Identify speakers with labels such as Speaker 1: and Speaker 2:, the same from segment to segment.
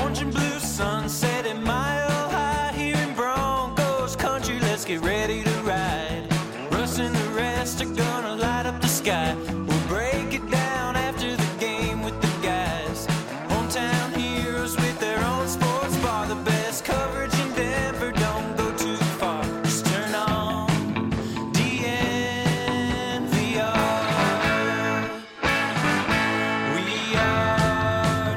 Speaker 1: orange and blue sunset at Mile High here in Broncos country. Let's get ready to ride. Russ and the rest are gonna light up the sky. We'll break it down after the game with the guys. Hometown heroes with their own sports bar. The best coverage in Denver, don't go too far. Just turn on DNVR. We are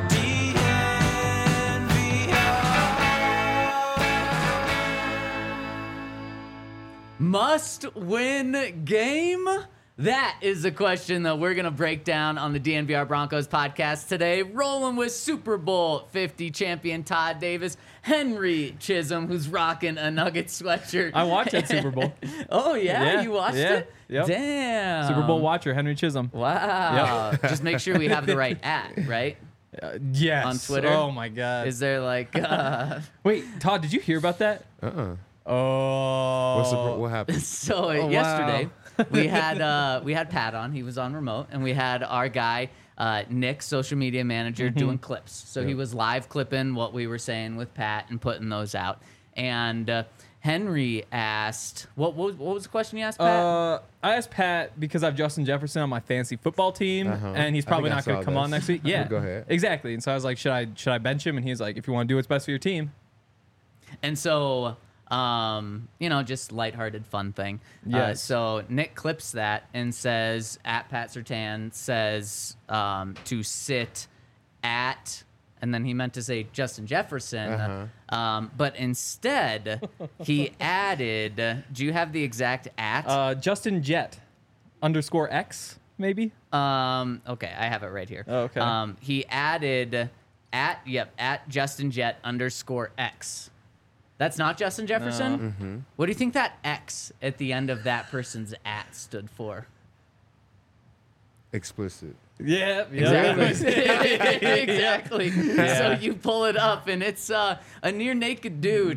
Speaker 1: DNVR.
Speaker 2: Must win game? That is the question that we're going to break down on the DNVR Broncos podcast today. Rolling with Super Bowl 50 champion Todd Davis, Henry Chisholm, who's rocking a Nugget sweatshirt.
Speaker 3: I watched that Super Bowl.
Speaker 2: Oh, yeah? You watched it?
Speaker 3: Yep.
Speaker 2: Damn.
Speaker 3: Super Bowl watcher, Henry Chisholm.
Speaker 2: Wow. Just make sure we have the right right?
Speaker 3: Yes.
Speaker 2: On Twitter?
Speaker 3: Oh, my God.
Speaker 2: Is there like...
Speaker 3: Wait, Todd, did you hear about that? Oh.
Speaker 4: What happened?
Speaker 2: So
Speaker 3: wow.
Speaker 2: yesterday we had Pat on. He was on remote, and we had our guy Nick, social media manager, doing clips. So he was live clipping what we were saying with Pat and putting those out. And Henry asked, what was the question you asked, Pat?
Speaker 3: I asked Pat because I have Justin Jefferson on my fantasy football team, and he's probably not going to come on next week. Yeah,
Speaker 4: go ahead.
Speaker 3: Exactly. And so I was like, should I bench him? And he's like, if you want to do what's best for your team.
Speaker 2: And so, just lighthearted, fun thing.
Speaker 3: Yes.
Speaker 2: So Nick clips that and says, at Pat Surtain says to sit at, and then he meant to say Justin Jefferson, but instead he added, do you have the exact at?
Speaker 3: Justin Jet _X, maybe?
Speaker 2: Okay, I have it right here.
Speaker 3: Oh, okay.
Speaker 2: He added at Justin Jet _X. That's not Justin Jefferson? What do you think that X at the end of that person's at stood for?
Speaker 4: Explicit.
Speaker 3: Yeah.
Speaker 2: Exactly. So you pull it up, and it's a near naked dude.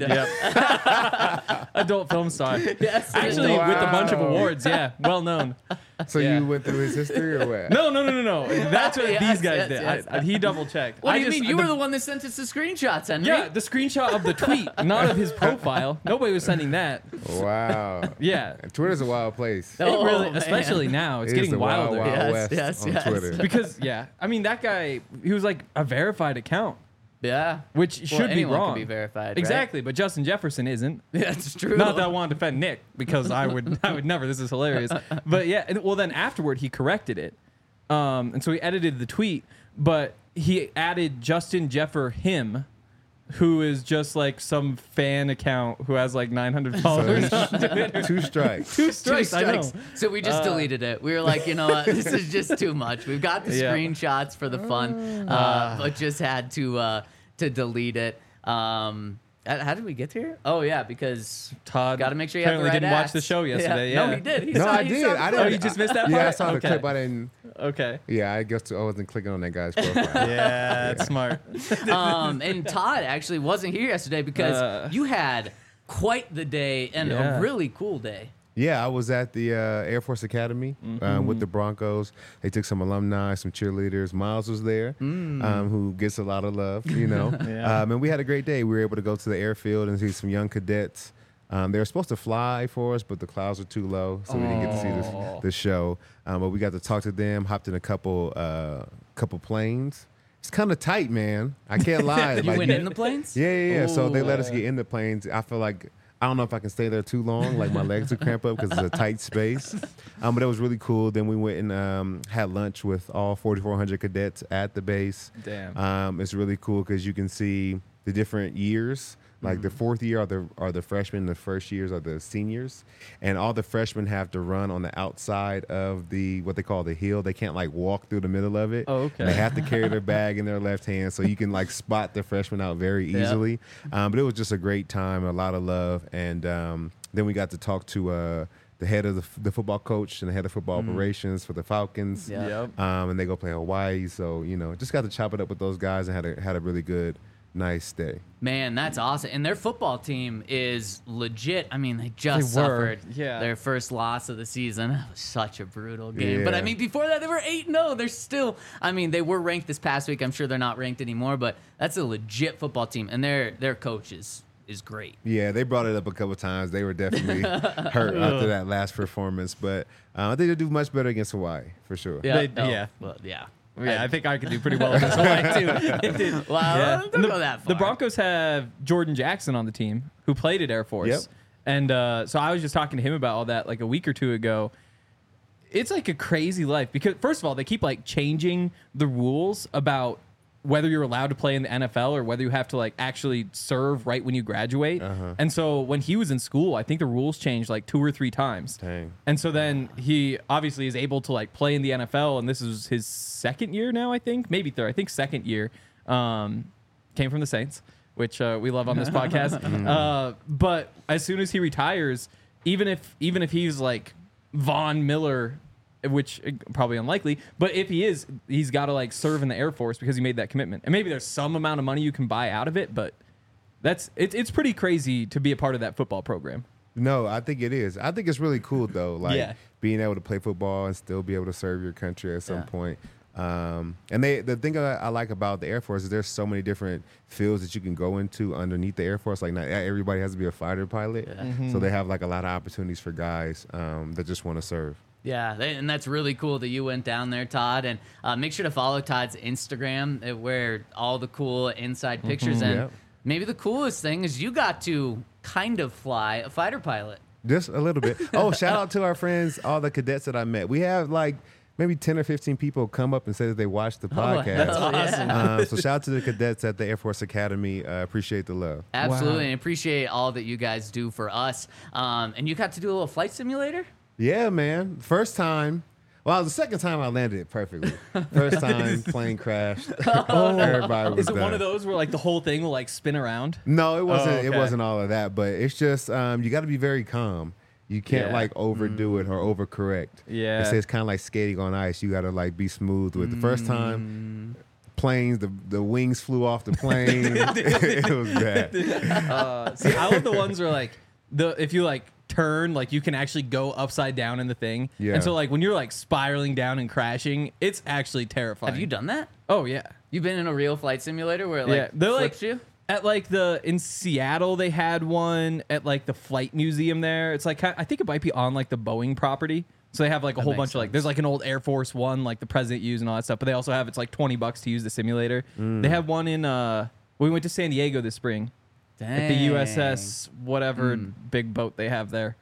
Speaker 3: Adult film star.
Speaker 2: Yes,
Speaker 3: Actually,
Speaker 4: Wow.
Speaker 3: with a bunch of awards. Yeah, well known.
Speaker 4: So
Speaker 3: Yeah.
Speaker 4: you went through his history or what?
Speaker 3: No. That's what
Speaker 2: Yes,
Speaker 3: these guys
Speaker 2: yes,
Speaker 3: did. He double checked.
Speaker 2: What do you mean? You were the one that sent us the screenshots, Henry.
Speaker 3: Yeah, the screenshot of the tweet, not of his profile. Nobody was sending that.
Speaker 4: Wow.
Speaker 3: Yeah.
Speaker 4: Twitter's a wild place.
Speaker 2: Oh,
Speaker 3: It really,
Speaker 2: man.
Speaker 3: especially now, it's
Speaker 4: It is
Speaker 3: getting
Speaker 4: the wild,
Speaker 3: wilder.
Speaker 4: wild
Speaker 2: Yes,
Speaker 4: west
Speaker 2: yes.
Speaker 4: on Twitter.
Speaker 3: Because I mean that guy, he was like a verified account,
Speaker 2: Yeah.
Speaker 3: which
Speaker 2: Well,
Speaker 3: should be
Speaker 2: anyone
Speaker 3: wrong.
Speaker 2: can be verified, right?
Speaker 3: Exactly, but Justin Jefferson isn't.
Speaker 2: That's true.
Speaker 3: Not that I want to defend Nick because I would never. This is hilarious. But yeah, well then afterward he corrected it, and so he edited the tweet, but he added Justin Jeffer him, who is just like some fan account who has like 900 followers.
Speaker 4: Two strikes.
Speaker 3: Two
Speaker 2: Two
Speaker 3: strikes, I know.
Speaker 2: strikes. So we just deleted it. We were like, you know what? This is just too much. We've got the
Speaker 3: Yeah.
Speaker 2: screenshots for the fun, but just had to delete it. How did we get here? Oh yeah, because
Speaker 3: Todd
Speaker 2: got to make sure you have the
Speaker 3: apparently
Speaker 2: right
Speaker 3: didn't watch
Speaker 2: acts.
Speaker 3: the show yesterday. Yeah.
Speaker 2: No, he did. He
Speaker 4: No,
Speaker 2: saw,
Speaker 4: I
Speaker 2: he
Speaker 4: did.
Speaker 2: saw the
Speaker 4: I
Speaker 2: clip.
Speaker 4: didn't.
Speaker 3: Oh, you just missed that
Speaker 4: Yeah, I
Speaker 3: part?
Speaker 4: saw the
Speaker 3: Okay.
Speaker 4: clip. I didn't.
Speaker 3: Okay.
Speaker 4: Yeah, I guess I wasn't clicking on that guy's profile.
Speaker 3: Yeah, that's smart.
Speaker 2: And Todd actually wasn't here yesterday because you had quite the day and
Speaker 3: Yeah.
Speaker 2: a really cool day.
Speaker 4: Yeah, I was at the Air Force Academy with the Broncos. They took some alumni, some cheerleaders. Miles was there, who gets a lot of love, you know.
Speaker 3: Yeah.
Speaker 4: And we had a great day. We were able to go to the airfield and see some young cadets. They were supposed to fly for us, but the clouds were too low, so we didn't get to see the show. But we got to talk to them, hopped in a couple planes. It's kind of tight, man. I can't lie.
Speaker 2: You went in the planes?
Speaker 4: Yeah. So they let us
Speaker 2: Ooh.
Speaker 4: get in the planes. I feel like I don't know if I can stay there too long. Like my legs would cramp up because it's a tight space. But it was really cool. Then we went and had lunch with all 4,400 cadets at the base.
Speaker 3: Damn.
Speaker 4: It's really cool because you can see the different years. Like the fourth year are the freshmen, the first years are the seniors, and all the freshmen have to run on the outside of what they call the hill. They can't like walk through the middle of it.
Speaker 3: Oh, okay.
Speaker 4: And they have to carry their bag in their left hand, so you can like spot the freshmen out very easily. But it was just a great time, a lot of love, and then we got to talk to the head of the football coach and the head of football operations for the Falcons.
Speaker 2: Yeah.
Speaker 3: Yep.
Speaker 4: And they go play Hawaii, so just got to chop it up with those guys and had a really good nice day.
Speaker 2: Man, that's awesome. And their football team is legit. I mean, they just
Speaker 3: They were,
Speaker 2: suffered
Speaker 3: yeah.
Speaker 2: their first loss of the season. That was such a brutal game. But I
Speaker 4: Yeah.
Speaker 2: mean, before that, they were 8-0. They're still, I mean, they were ranked this past week. I'm sure they're not ranked anymore, but that's a legit football team. And their coach is great.
Speaker 4: Yeah, they brought it up a couple times. They were definitely hurt after that last performance, but I think they'll do much better against Hawaii for sure.
Speaker 3: They- yeah.
Speaker 2: Well, yeah.
Speaker 3: Yeah, I think I could do pretty well against Hawaii too.
Speaker 2: Well, don't go that far.
Speaker 3: The Broncos have Jordan Jackson on the team, who played at Air Force.
Speaker 4: Yep.
Speaker 3: And so I was just talking to him about all that like a week or two ago. It's like a crazy life because, first of all, they keep like changing the rules about whether you're allowed to play in the NFL or whether you have to like actually serve right when you graduate. And so when he was in school, I think the rules changed like 2 or 3 times.
Speaker 4: Dang.
Speaker 3: And so then he obviously is able to like play in the NFL, and this is his second year now, I think, maybe third. I think second year. Came from the Saints, which we love on this podcast. But as soon as he retires, even if he's like Von Miller, which probably unlikely, but if he is, he's got to like serve in the Air Force because he made that commitment. And maybe there's some amount of money you can buy out of it, but it's pretty crazy to be a part of that football program.
Speaker 4: No, I think it is. I think it's really cool though, like
Speaker 3: Yeah.
Speaker 4: being able to play football and still be able to serve your country at some
Speaker 2: Yeah.
Speaker 4: point. And the thing I like about the Air Force is there's so many different fields that you can go into underneath the Air Force. Like not everybody has to be a fighter pilot, so they have like a lot of opportunities for guys that just want to serve.
Speaker 2: Yeah, and that's really cool that you went down there, Todd. And make sure to follow Todd's Instagram, where all the cool inside pictures. And
Speaker 4: Yep.
Speaker 2: maybe the coolest thing is you got to kind of fly a fighter pilot.
Speaker 4: Just a little bit. Oh, shout out to our friends, all the cadets that I met. We have like maybe 10 or 15 people come up and say that they watched the podcast.
Speaker 2: that's awesome.
Speaker 4: So shout out to the cadets at the Air Force Academy. Appreciate the love.
Speaker 2: Absolutely,
Speaker 3: Wow.
Speaker 2: and appreciate all that you guys do for us. And you got to do a little flight simulator?
Speaker 4: Yeah, man. First time. Well, the second time I landed it perfectly. First time plane crashed. Everybody was
Speaker 3: Is it
Speaker 4: done.
Speaker 3: one of those where like the whole thing will like spin around?
Speaker 4: No, it wasn't.
Speaker 3: okay.
Speaker 4: It wasn't all of that. But it's just you got to be very calm. You can't
Speaker 3: Yeah.
Speaker 4: like overdo it or overcorrect.
Speaker 3: Yeah.
Speaker 4: It's kind of like skating on ice. You got to like be smooth with. The first time, planes, the wings flew off the plane. It was bad.
Speaker 3: See, I love the ones where like if you like turn, like you can actually go upside down in the thing.
Speaker 4: Yeah.
Speaker 3: And so like when you're like spiraling down and crashing, it's actually terrifying.
Speaker 2: Have you done that?
Speaker 3: Oh yeah.
Speaker 2: You've been in a real flight simulator where it like
Speaker 3: They're
Speaker 2: flips
Speaker 3: like
Speaker 2: you?
Speaker 3: at like in Seattle they had one at like the flight museum there. It's like I think it might be on like the Boeing proproperty. So they have like a whole
Speaker 2: makes
Speaker 3: bunch of like
Speaker 2: sense.
Speaker 3: there's like an old Air Force One like the president used and all that stuff. But they also have it's like $20 to use the simulator. They have one in we went to San Diego this spring. At the USS whatever big boat they have there.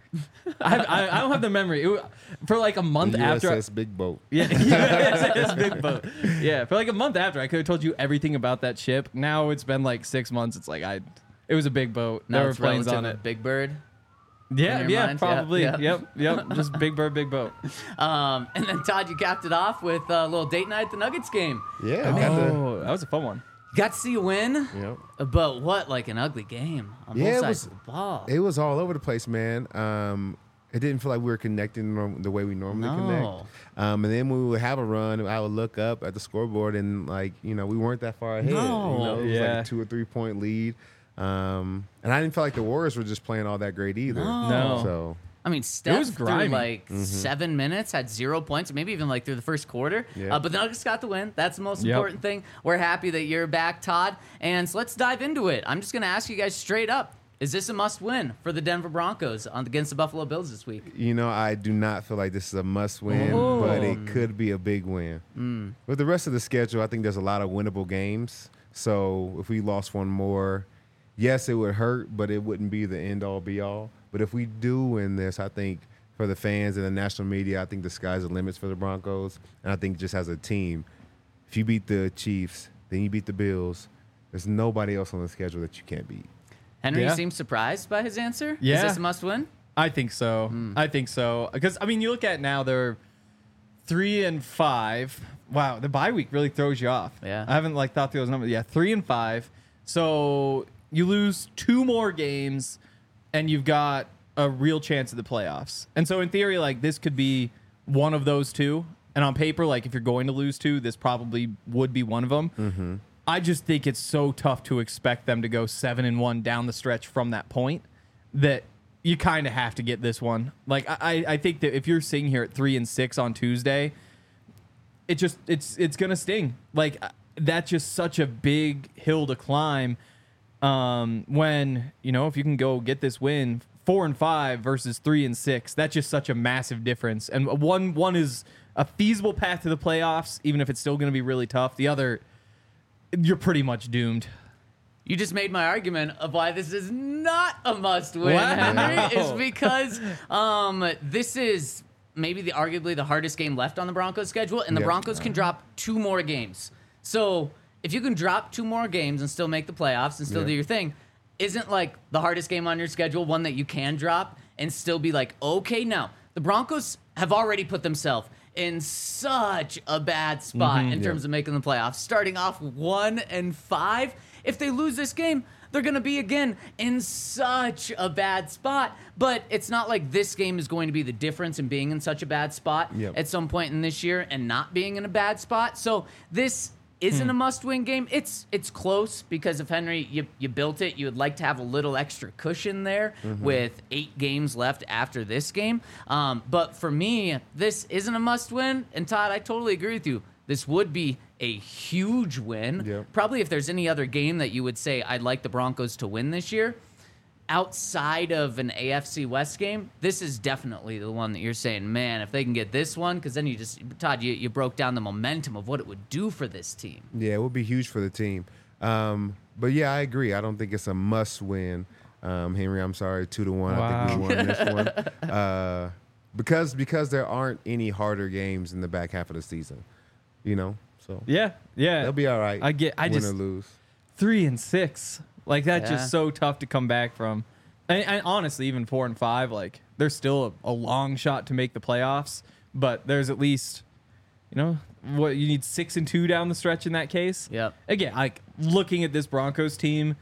Speaker 3: I don't have the memory. For like a month
Speaker 4: The
Speaker 3: after.
Speaker 4: USS Big Boat.
Speaker 3: Yeah, USS big boat. Yeah, for like a month after, I could have told you everything about that ship. Now it's been like 6 months. It's like it was a big boat.
Speaker 2: Now
Speaker 3: There were
Speaker 2: it's
Speaker 3: planes
Speaker 2: relative
Speaker 3: on
Speaker 2: to
Speaker 3: it.
Speaker 2: Big Bird.
Speaker 3: Yeah,
Speaker 2: in your
Speaker 3: yeah,
Speaker 2: mind?
Speaker 3: probably.
Speaker 2: Yeah, yeah.
Speaker 3: Yep. Just big bird, big boat.
Speaker 2: And then Todd, you capped it off with a little date night at the Nuggets game.
Speaker 4: Yeah, got the.
Speaker 3: Oh, that was a fun one.
Speaker 2: Got to see a win,
Speaker 4: Yep.
Speaker 2: but what like an ugly game on
Speaker 4: Yeah,
Speaker 2: both
Speaker 4: it
Speaker 2: sides
Speaker 4: was-
Speaker 2: of the ball.
Speaker 4: It was all over the place, man. It didn't feel like we were connecting the way we normally connect. And then when we would have a run, I would look up at the scoreboard and like, we weren't that far ahead.
Speaker 2: No.
Speaker 4: It was
Speaker 3: Yeah.
Speaker 4: like a 2 or 3 point lead. And I didn't feel like the Warriors were just playing all that great either.
Speaker 2: No.
Speaker 4: So
Speaker 2: I mean, Steph
Speaker 3: was
Speaker 2: through
Speaker 3: grimy.
Speaker 2: like 7 minutes had 0 points, maybe even like through the first quarter.
Speaker 4: Yeah.
Speaker 2: But the Nuggets got the win. That's the most
Speaker 3: Yep.
Speaker 2: important thing. We're happy that you're back, Todd. And so let's dive into it. I'm just going to ask you guys straight up. Is this a must win for the Denver Broncos against the Buffalo Bills this week?
Speaker 4: I do not feel like this is a must win, but it could be a big win. With the rest of the schedule, I think there's a lot of winnable games. So if we lost one more, yes, it would hurt, but it wouldn't be the end all be all. But if we do win this, I think for the fans and the national media, I think the sky's the limits for the Broncos. And I think just as a team, if you beat the Chiefs, then you beat the Bills, there's nobody else on the schedule that you can't beat.
Speaker 2: Henry
Speaker 3: Yeah.
Speaker 2: seems surprised by his answer.
Speaker 3: Yeah.
Speaker 2: Is this a must win?
Speaker 3: I think so. I think so. Because I mean, you look at now they're 3-5. Wow, the bye week really throws you off.
Speaker 2: Yeah.
Speaker 3: I haven't like thought through those numbers. Yeah, 3-5. So you lose 2 more games, and you've got a real chance at the playoffs. And so in theory, like this could be one of those 2. And on paper, like if you're going to lose 2, this probably would be one of them. I just think it's so tough to expect them to go 7-1 down the stretch from that point that you kind of have to get this one. Like I think that if you're sitting here at 3-6 on Tuesday, it's gonna sting. Like that's just such a big hill to climb. When if you can go get this win 4-5 versus 3-6, that's just such a massive difference. And one is a feasible path to the playoffs, even if it's still going to be really tough. The other, you're pretty much doomed.
Speaker 2: You just made my argument of why this is not a must-win,
Speaker 3: Wow.
Speaker 2: Henry, is because this is maybe arguably the hardest game left on the Broncos schedule, and the
Speaker 4: Yep.
Speaker 2: Broncos can drop 2 more games. So if you can drop 2 more games and still make the playoffs and still
Speaker 4: Yeah.
Speaker 2: do your thing, isn't like the hardest game on your schedule one that you can drop and still be like, okay, now the Broncos have already put themselves in such a bad spot in terms of making the playoffs, starting off 1-5. If they lose this game, they're going to be again in such a bad spot. But it's not like this game is going to be the difference in being in such a bad spot
Speaker 4: Yep.
Speaker 2: at some point in this year and not being in a bad spot. So this isn't a must-win game. It's close because if Henry, you built it, you would like to have a little extra cushion there with 8 games left after this game. But for me, this isn't a must-win. And Todd, I totally agree with you. This would be a huge win.
Speaker 4: Yep.
Speaker 2: Probably if there's any other game that you would say I'd like the Broncos to win this year, outside of an AFC West game, this is definitely the one that you're saying, man, if they can get this one, because then Todd, you broke down the momentum of what it would do for this team.
Speaker 4: Yeah, it would be huge for the team. But yeah, I agree. I don't think it's a must-win. Henry, I'm sorry, 2-1. I think we won this one because there aren't any harder games in the back half of the season. So
Speaker 3: Yeah.
Speaker 4: they'll be all right.
Speaker 3: I
Speaker 4: win
Speaker 3: just
Speaker 4: or lose.
Speaker 3: 3-6. Like that's
Speaker 2: Yeah.
Speaker 3: just so tough to come back from. And honestly, even 4-5, like there's still a long shot to make the playoffs. But there's at least, what you need 6-2 down the stretch in that case.
Speaker 2: Yep.
Speaker 3: Again, like looking at this Broncos team,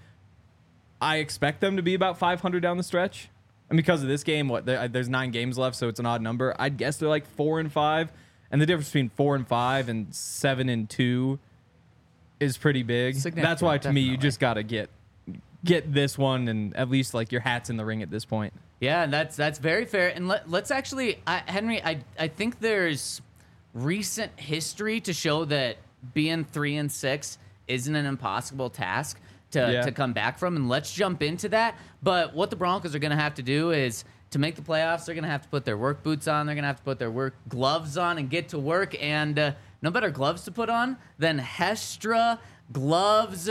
Speaker 3: I expect them to be about 500 down the stretch. And because of this game, there's 9 games left, so it's an odd number. I'd guess they're like 4-5, and the difference between 4-5 and 7-2 is pretty big.
Speaker 2: Significant,
Speaker 3: That's why to me you
Speaker 2: definitely.
Speaker 3: just got to get this one and at least like your hat's in the ring at this point.
Speaker 2: Yeah, and that's very fair. And let's actually, Henry, I think there's recent history to show that being 3-6 isn't an impossible task to come back from. And let's jump into that. But what the Broncos are going to have to do is, to make the playoffs, they're going to have to put their work boots on. They're going to have to put their work gloves on and get to work. And no better gloves to put on than Hestra gloves.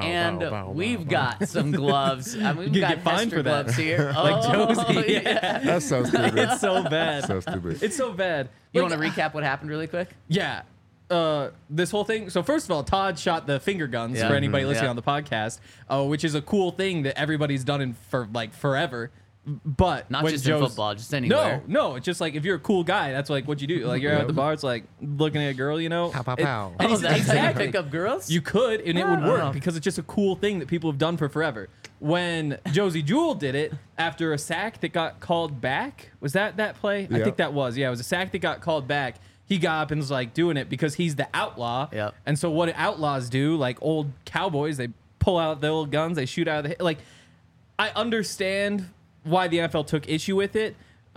Speaker 2: We've got some gloves. I mean, we've
Speaker 3: You
Speaker 2: got
Speaker 3: get fined
Speaker 2: Hestra
Speaker 3: for that.
Speaker 2: gloves here.
Speaker 3: Like Josie.
Speaker 2: Yeah.
Speaker 4: That's so stupid.
Speaker 3: It's so bad.
Speaker 4: So stupid.
Speaker 3: It's so bad.
Speaker 2: You
Speaker 3: Like,
Speaker 2: want to recap what happened really quick?
Speaker 3: Yeah. This whole thing. So first of all, Todd shot the finger guns
Speaker 2: Yeah.
Speaker 3: for anybody listening
Speaker 2: Yeah.
Speaker 3: on the podcast, which is a cool thing that everybody's done for like forever. But
Speaker 2: Not
Speaker 3: when
Speaker 2: just in
Speaker 3: Joe's-
Speaker 2: football, just anywhere.
Speaker 3: No. It's just like if you're a cool guy, that's like what you do. Like you're out at the bar, it's like looking at a girl,
Speaker 4: Pow, pow, pow.
Speaker 3: And
Speaker 2: Oh,
Speaker 3: he's-
Speaker 2: that's how you
Speaker 3: exactly.
Speaker 2: pick up girls?
Speaker 3: You could, and it
Speaker 2: I
Speaker 3: would
Speaker 2: don't
Speaker 3: work
Speaker 2: know.
Speaker 3: because it's just a cool thing that people have done for forever. When Josie Jewell did it after a sack that got called back, was that play? I
Speaker 4: Yeah.
Speaker 3: think that was. Yeah, it was a sack that got called back. He got up and was like doing it because he's the outlaw.
Speaker 2: Yep.
Speaker 3: And so what outlaws do, like old cowboys, they pull out their old guns, they shoot out of the like. I understand why the NFL took issue with it.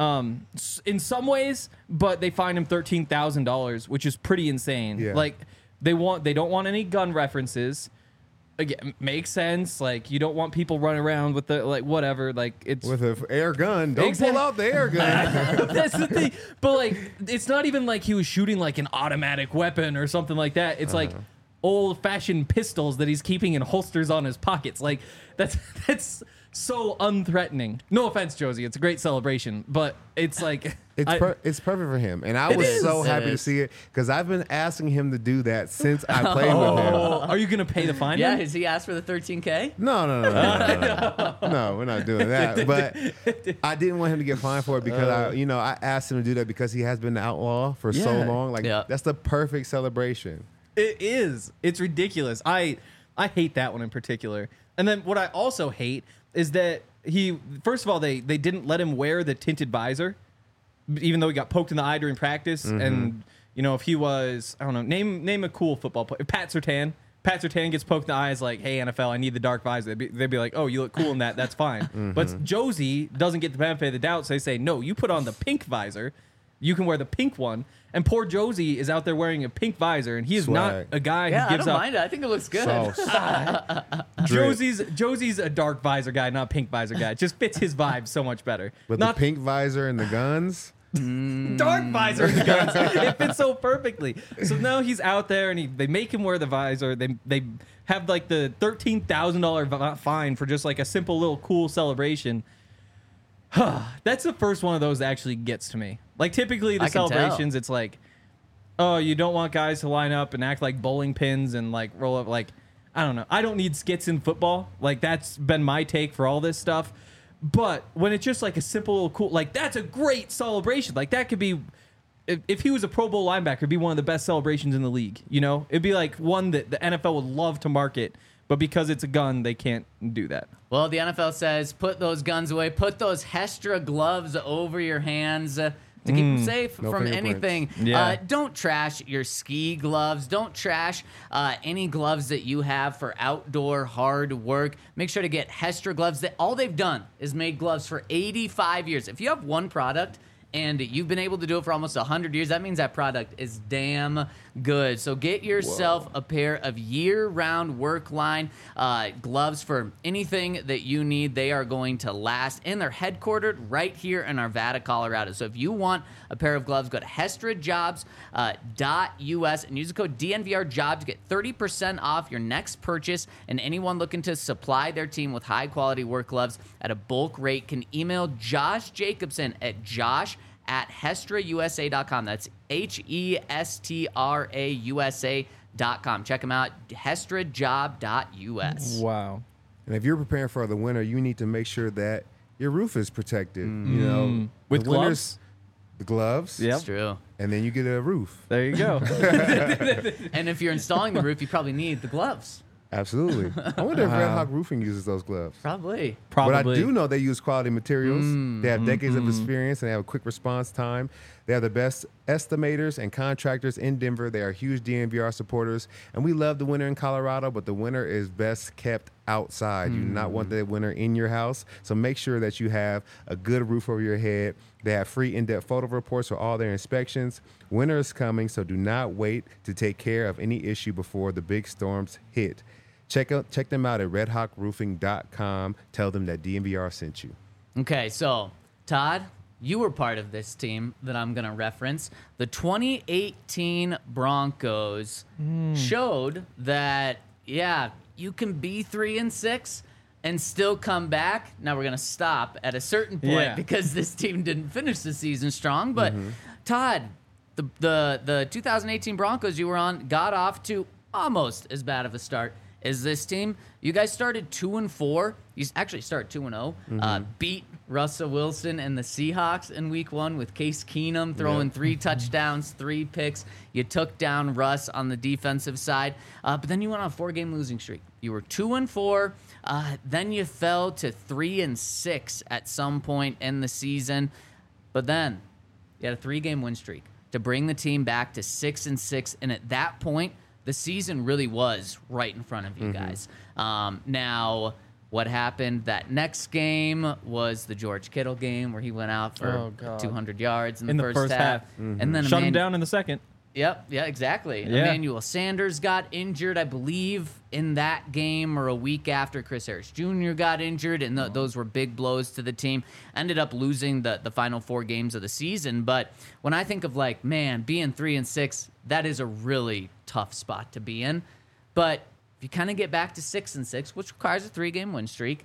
Speaker 3: In some ways, but they fined him $13,000, which is pretty insane.
Speaker 4: Yeah.
Speaker 3: Like they don't want any gun references. Again, makes sense. Like you don't want people running around with the like whatever. Like it's
Speaker 4: With an air gun. Don't
Speaker 3: Exactly.
Speaker 4: pull out the air gun.
Speaker 3: that's the thing. But like it's not even like he was shooting like an automatic weapon or something like that. It's like old-fashioned pistols that he's keeping in holsters on his pockets. Like that's so unthreatening. No offense, Josie. It's a great celebration, but it's like
Speaker 4: It's perfect for him. And I was
Speaker 3: is.
Speaker 4: so
Speaker 2: It
Speaker 4: happy to
Speaker 2: is.
Speaker 4: see it because I've been asking him to do that since I played with him.
Speaker 3: Oh, are you gonna pay the fine?
Speaker 2: Yeah,
Speaker 3: then?
Speaker 2: has he asked for the 13K?
Speaker 4: No. No, we're not doing that. But I didn't want him to get fined for it because I asked him to do that because he has been the outlaw for so
Speaker 3: Yeah.
Speaker 4: long. Like
Speaker 2: Yeah.
Speaker 4: that's the perfect celebration.
Speaker 3: It is. It's ridiculous. I hate that one in particular. And then what I also hate is that first of all, they didn't let him wear the tinted visor, even though he got poked in the eye during practice. And if he was, I don't know, name a cool football player. Pat Surtain Pat Surtain gets poked in the eyes like, hey, NFL, I need the dark visor. They'd be like, oh, you look cool in that. That's fine. But Josie doesn't get the benefit of the doubt. So they say, no, you put on the pink visor. You can wear the pink one. And poor Josie is out there wearing a pink visor, and he is not
Speaker 4: Swag.
Speaker 3: a guy
Speaker 2: Yeah,
Speaker 3: who gives
Speaker 2: I don't
Speaker 3: up.
Speaker 2: mind it. I think it looks good.
Speaker 4: Sauce.
Speaker 3: Josie's a dark visor guy, not pink visor guy. It just fits his vibe so much better.
Speaker 4: But
Speaker 3: Not
Speaker 4: the pink visor and the guns.
Speaker 3: dark visor in the guns. It fits so perfectly. So now he's out there, and they make him wear the visor. They have like the $13,000 fine for just like a simple little cool celebration. That's the first one of those that actually gets to me. Like typically the
Speaker 2: I can
Speaker 3: celebrations, it's like, oh, you don't want guys to line up and act like bowling pins and like roll up. Like, I don't know. I don't need skits in football. Like that's been my take for all this stuff. But when it's just like a simple little cool, like that's a great celebration. Like that could be, if he was a Pro Bowl linebacker, it'd be one of the best celebrations in the league. You know, it'd be like one that the NFL would love to market, but because it's a gun, they can't do that.
Speaker 2: Well, the NFL says put those guns away. Put those Hestra gloves over your hands to keep them safe
Speaker 4: No
Speaker 2: from
Speaker 4: fingerprints.
Speaker 2: anything.
Speaker 3: Yeah.
Speaker 2: Don't trash your ski gloves. Don't trash any gloves that you have for outdoor hard work. Make sure to get Hestra gloves. All they've done is made gloves for 85 years. If you have one product and you've been able to do it for almost 100 years, that means that product is damn good. So get yourself a pair of year-round work line gloves for anything that you need. They are going to last, and they're headquartered right here in Arvada, Colorado. So if you want a pair of gloves, go to hestrajobs.us and use the code DNVRJOB to get 30% off your next purchase. And anyone looking to supply their team with high-quality work gloves at a bulk rate can email Josh Jacobson at josh@hestrausa.com. That's HESTRAUSA.com. Check them out, hestrajob.us.
Speaker 3: Wow.
Speaker 4: And if you're preparing for the winter, you need to make sure that your roof is protected. You know,
Speaker 3: With
Speaker 4: the winters-
Speaker 3: gloves?
Speaker 4: The gloves.
Speaker 3: Yep.
Speaker 2: It's true.
Speaker 4: And then you get a roof.
Speaker 3: There you go.
Speaker 2: And if you're installing the roof, you probably need the gloves.
Speaker 4: Absolutely. I wonder if Red Hawk Roofing uses those gloves.
Speaker 2: Probably.
Speaker 3: Probably.
Speaker 4: But I do know they use quality materials. They have decades of experience and they have a quick response time. They are the best estimators and contractors in Denver. They are huge DNVR supporters. And we love the winter in Colorado, but the winter is best kept outside. You do not want the winter in your house. So make sure that you have a good roof over your head. They have free in-depth photo reports for all their inspections. Winter is coming, so do not wait to take care of any issue before the big storms hit. Check them out at redhawkroofing.com. Tell them that DNVR sent you.
Speaker 2: Okay, so Todd, you were part of this team that I'm going to reference. The 2018 Broncos showed that, yeah, you can be 3-6 and still come back. Now we're going to stop at a certain point because this team didn't finish the season strong. But Todd, the 2018 Broncos you were on got off to almost as bad of a start as this team. You guys started 2-4. You actually started 2-0. Beat Russell Wilson and the Seahawks in week 1 with Case Keenum throwing 3 touchdowns, 3 picks. You took down Russ on the defensive side. But then you went on a 4-game losing streak. You were 2-4. Then you fell to 3-6 at some point in the season. But then you had a 3-game win streak to bring the team back to 6-6. And at that point, the season really was right in front of you guys. Now, what happened that next game was the George Kittle game where he went out for 200 yards in the first half. And then
Speaker 3: Shut him down in the second.
Speaker 2: Yep, yeah, exactly.
Speaker 3: Yeah.
Speaker 2: Emmanuel Sanders got injured, I believe, in that game or a week after. Chris Harris Jr. got injured, and those were big blows to the team. Ended up losing the final 4 games of the season. But when I think of, like, man, being 3-6, that is a really tough spot to be in. But if you kind of get back to 6-6, which requires a 3-game win streak,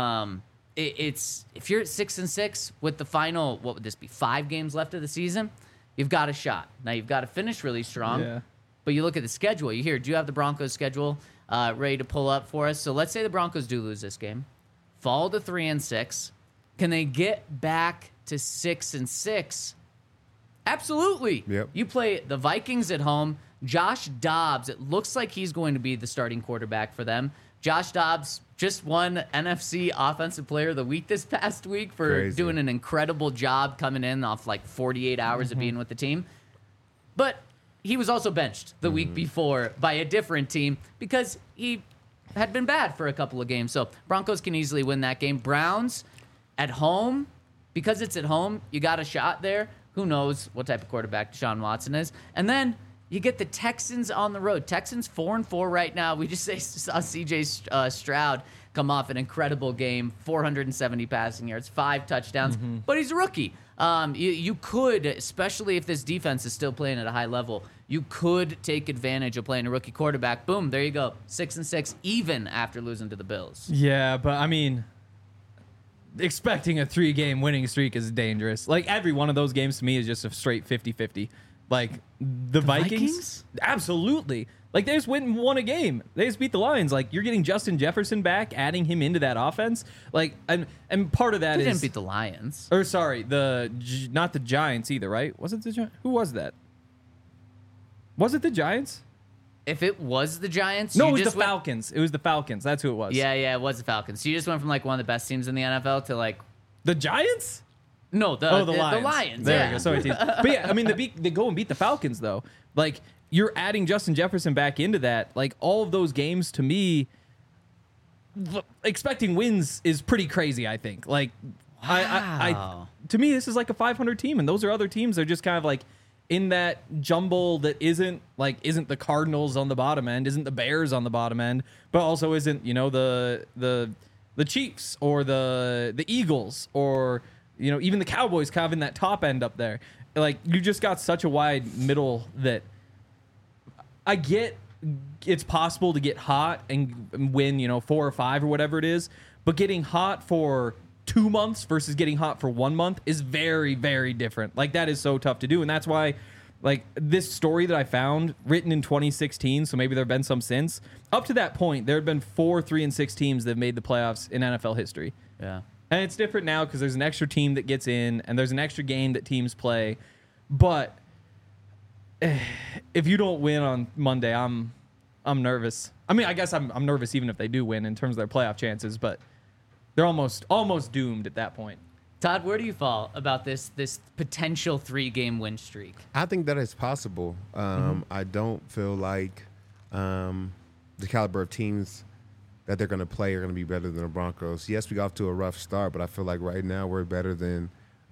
Speaker 2: it's if you're at 6-6 with the final, what would this be, 5 games left of the season, you've got a shot. Now, you've got to finish really strong.
Speaker 3: Yeah.
Speaker 2: But you look at the schedule. Do you have the Broncos schedule ready to pull up for us? So let's say the Broncos do lose this game, fall to 3-6. Can they get back to 6-6? Absolutely.
Speaker 4: Yep.
Speaker 2: You play the Vikings at home. Josh Dobbs, it looks like he's going to be the starting quarterback for them. Josh Dobbs just won NFC Offensive Player of the Week this past week for doing an incredible job coming in off like 48 hours of being with the team. But he was also benched the week before by a different team because he had been bad for a couple of games. So Broncos can easily win that game. Browns at home, because it's at home, you got a shot there. Who knows what type of quarterback Deshaun Watson is. And then you get the Texans on the road. Texans 4-4 right now. We just saw C.J. Stroud come off an incredible game, 470 passing yards, 5 touchdowns, but he's a rookie. You could, especially if this defense is still playing at a high level, you could take advantage of playing a rookie quarterback. Boom, there you go. 6-6, even after losing to the Bills.
Speaker 3: Yeah, but I mean, expecting a 3-game winning streak is dangerous. Like, every one of those games to me is just a straight 50-50. Like, the Vikings? Absolutely. Like, they just went and won a game. They just beat the Lions. Like, you're getting Justin Jefferson back, adding him into that offense. Like, and part of that
Speaker 2: They
Speaker 3: is...
Speaker 2: didn't beat the Lions.
Speaker 3: Or, sorry, not the Giants either, right? Was it the Giants? Who was that? Was it the Giants?
Speaker 2: If it was the Giants,
Speaker 3: No,
Speaker 2: you
Speaker 3: it was
Speaker 2: just
Speaker 3: the Falcons. It was the Falcons. That's who it was.
Speaker 2: Yeah, it was the Falcons. So you just went from like one of the best teams in the NFL to like
Speaker 3: The Giants?
Speaker 2: no, the
Speaker 3: Lions.
Speaker 2: The Lions.
Speaker 3: There
Speaker 2: yeah.
Speaker 3: we go. Sorry, teams. But yeah, I mean, they go and beat the Falcons, though. Like, you're adding Justin Jefferson back into that. Like, all of those games, to me, expecting wins is pretty crazy, I think. Like,
Speaker 2: Wow.
Speaker 3: to me, this is like a 500 team, and those are other teams. They're just kind of like in that jumble that isn't the Cardinals on the bottom end, isn't the Bears on the bottom end, but also isn't, the Chiefs or the Eagles or, even the Cowboys kind of in that top end up there. Like, you just got such a wide middle that I get it's possible to get hot and win, 4 or 5 or whatever it is, but getting hot for 2 months versus getting hot for 1 month is very, very different. Like, that is so tough to do. And that's why, like, this story that I found written in 2016, so maybe there have been some since, up to that point, there had been 4 3-6 teams that have made the playoffs in NFL history.
Speaker 2: Yeah.
Speaker 3: And it's different now because there's an extra team that gets in and there's an extra game that teams play. But if you don't win on Monday, I'm nervous. I mean, I guess I'm nervous even if they do win in terms of their playoff chances, but they're almost doomed at that point.
Speaker 2: Todd, where do you fall about this potential 3-game win streak?
Speaker 4: I think that is possible. I don't feel like the caliber of teams that they're going to play are going to be better than the Broncos. Yes, we got off to a rough start, but I feel like right now we're better than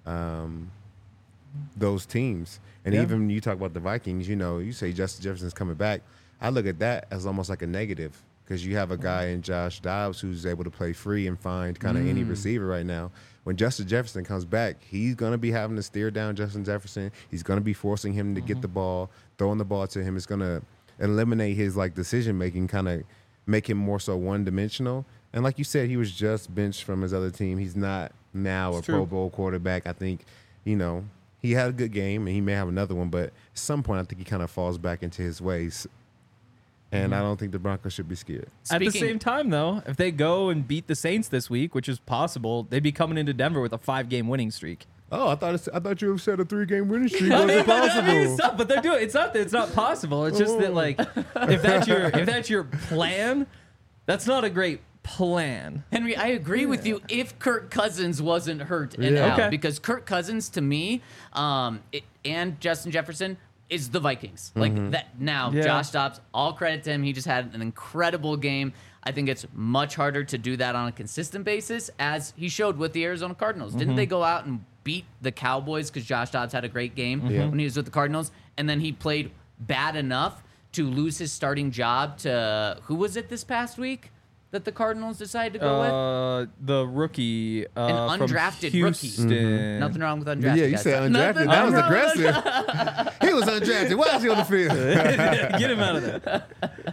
Speaker 4: those teams. And even you talk about the Vikings, you say Justin Jefferson's coming back. I look at that as almost like a negative because you have a guy in Josh Dobbs who's able to play free and find kind of any receiver right now. When Justin Jefferson comes back, he's going to be having to steer down Justin Jefferson. He's going to be forcing him to get the ball, throwing the ball to him. It's going to eliminate his decision-making, kind of make him more so one-dimensional. And like you said, he was just benched from his other team. He's not now a Pro Bowl quarterback. I think, he had a good game, and he may have another one, but at some point I think he kind of falls back into his ways. And I don't think the Broncos should be scared.
Speaker 3: At the same time, though, if they go and beat the Saints this week, which is possible, they'd be coming into Denver with a 5-game winning streak.
Speaker 4: Oh, I thought you said a 3-game winning streak wasn't possible.
Speaker 3: But they're doing. It's not that it's not possible. It's just that, like, if that's your plan, that's not a great plan.
Speaker 2: Henry, I agree with you if Kirk Cousins wasn't hurt and out.
Speaker 3: Okay.
Speaker 2: Because Kirk Cousins, to me, and Justin Jefferson, is the Vikings. Like that now, Josh Dobbs, all credit to him. He just had an incredible game. I think it's much harder to do that on a consistent basis, as he showed with the Arizona Cardinals. Didn't they go out and beat the Cowboys because Josh Dobbs had a great game when he was with the Cardinals? And then he played bad enough to lose his starting job to, who was it this past week that the Cardinals decided to go with?
Speaker 3: The rookie.
Speaker 2: An undrafted
Speaker 3: from
Speaker 2: rookie.
Speaker 3: Houston.
Speaker 2: Nothing wrong with undrafted.
Speaker 4: Yeah, you
Speaker 2: guys.
Speaker 4: said
Speaker 2: Nothing
Speaker 4: undrafted. That was
Speaker 2: wrong with
Speaker 4: aggressive. He was undrafted. Why is he on the field?
Speaker 3: Get him out of there.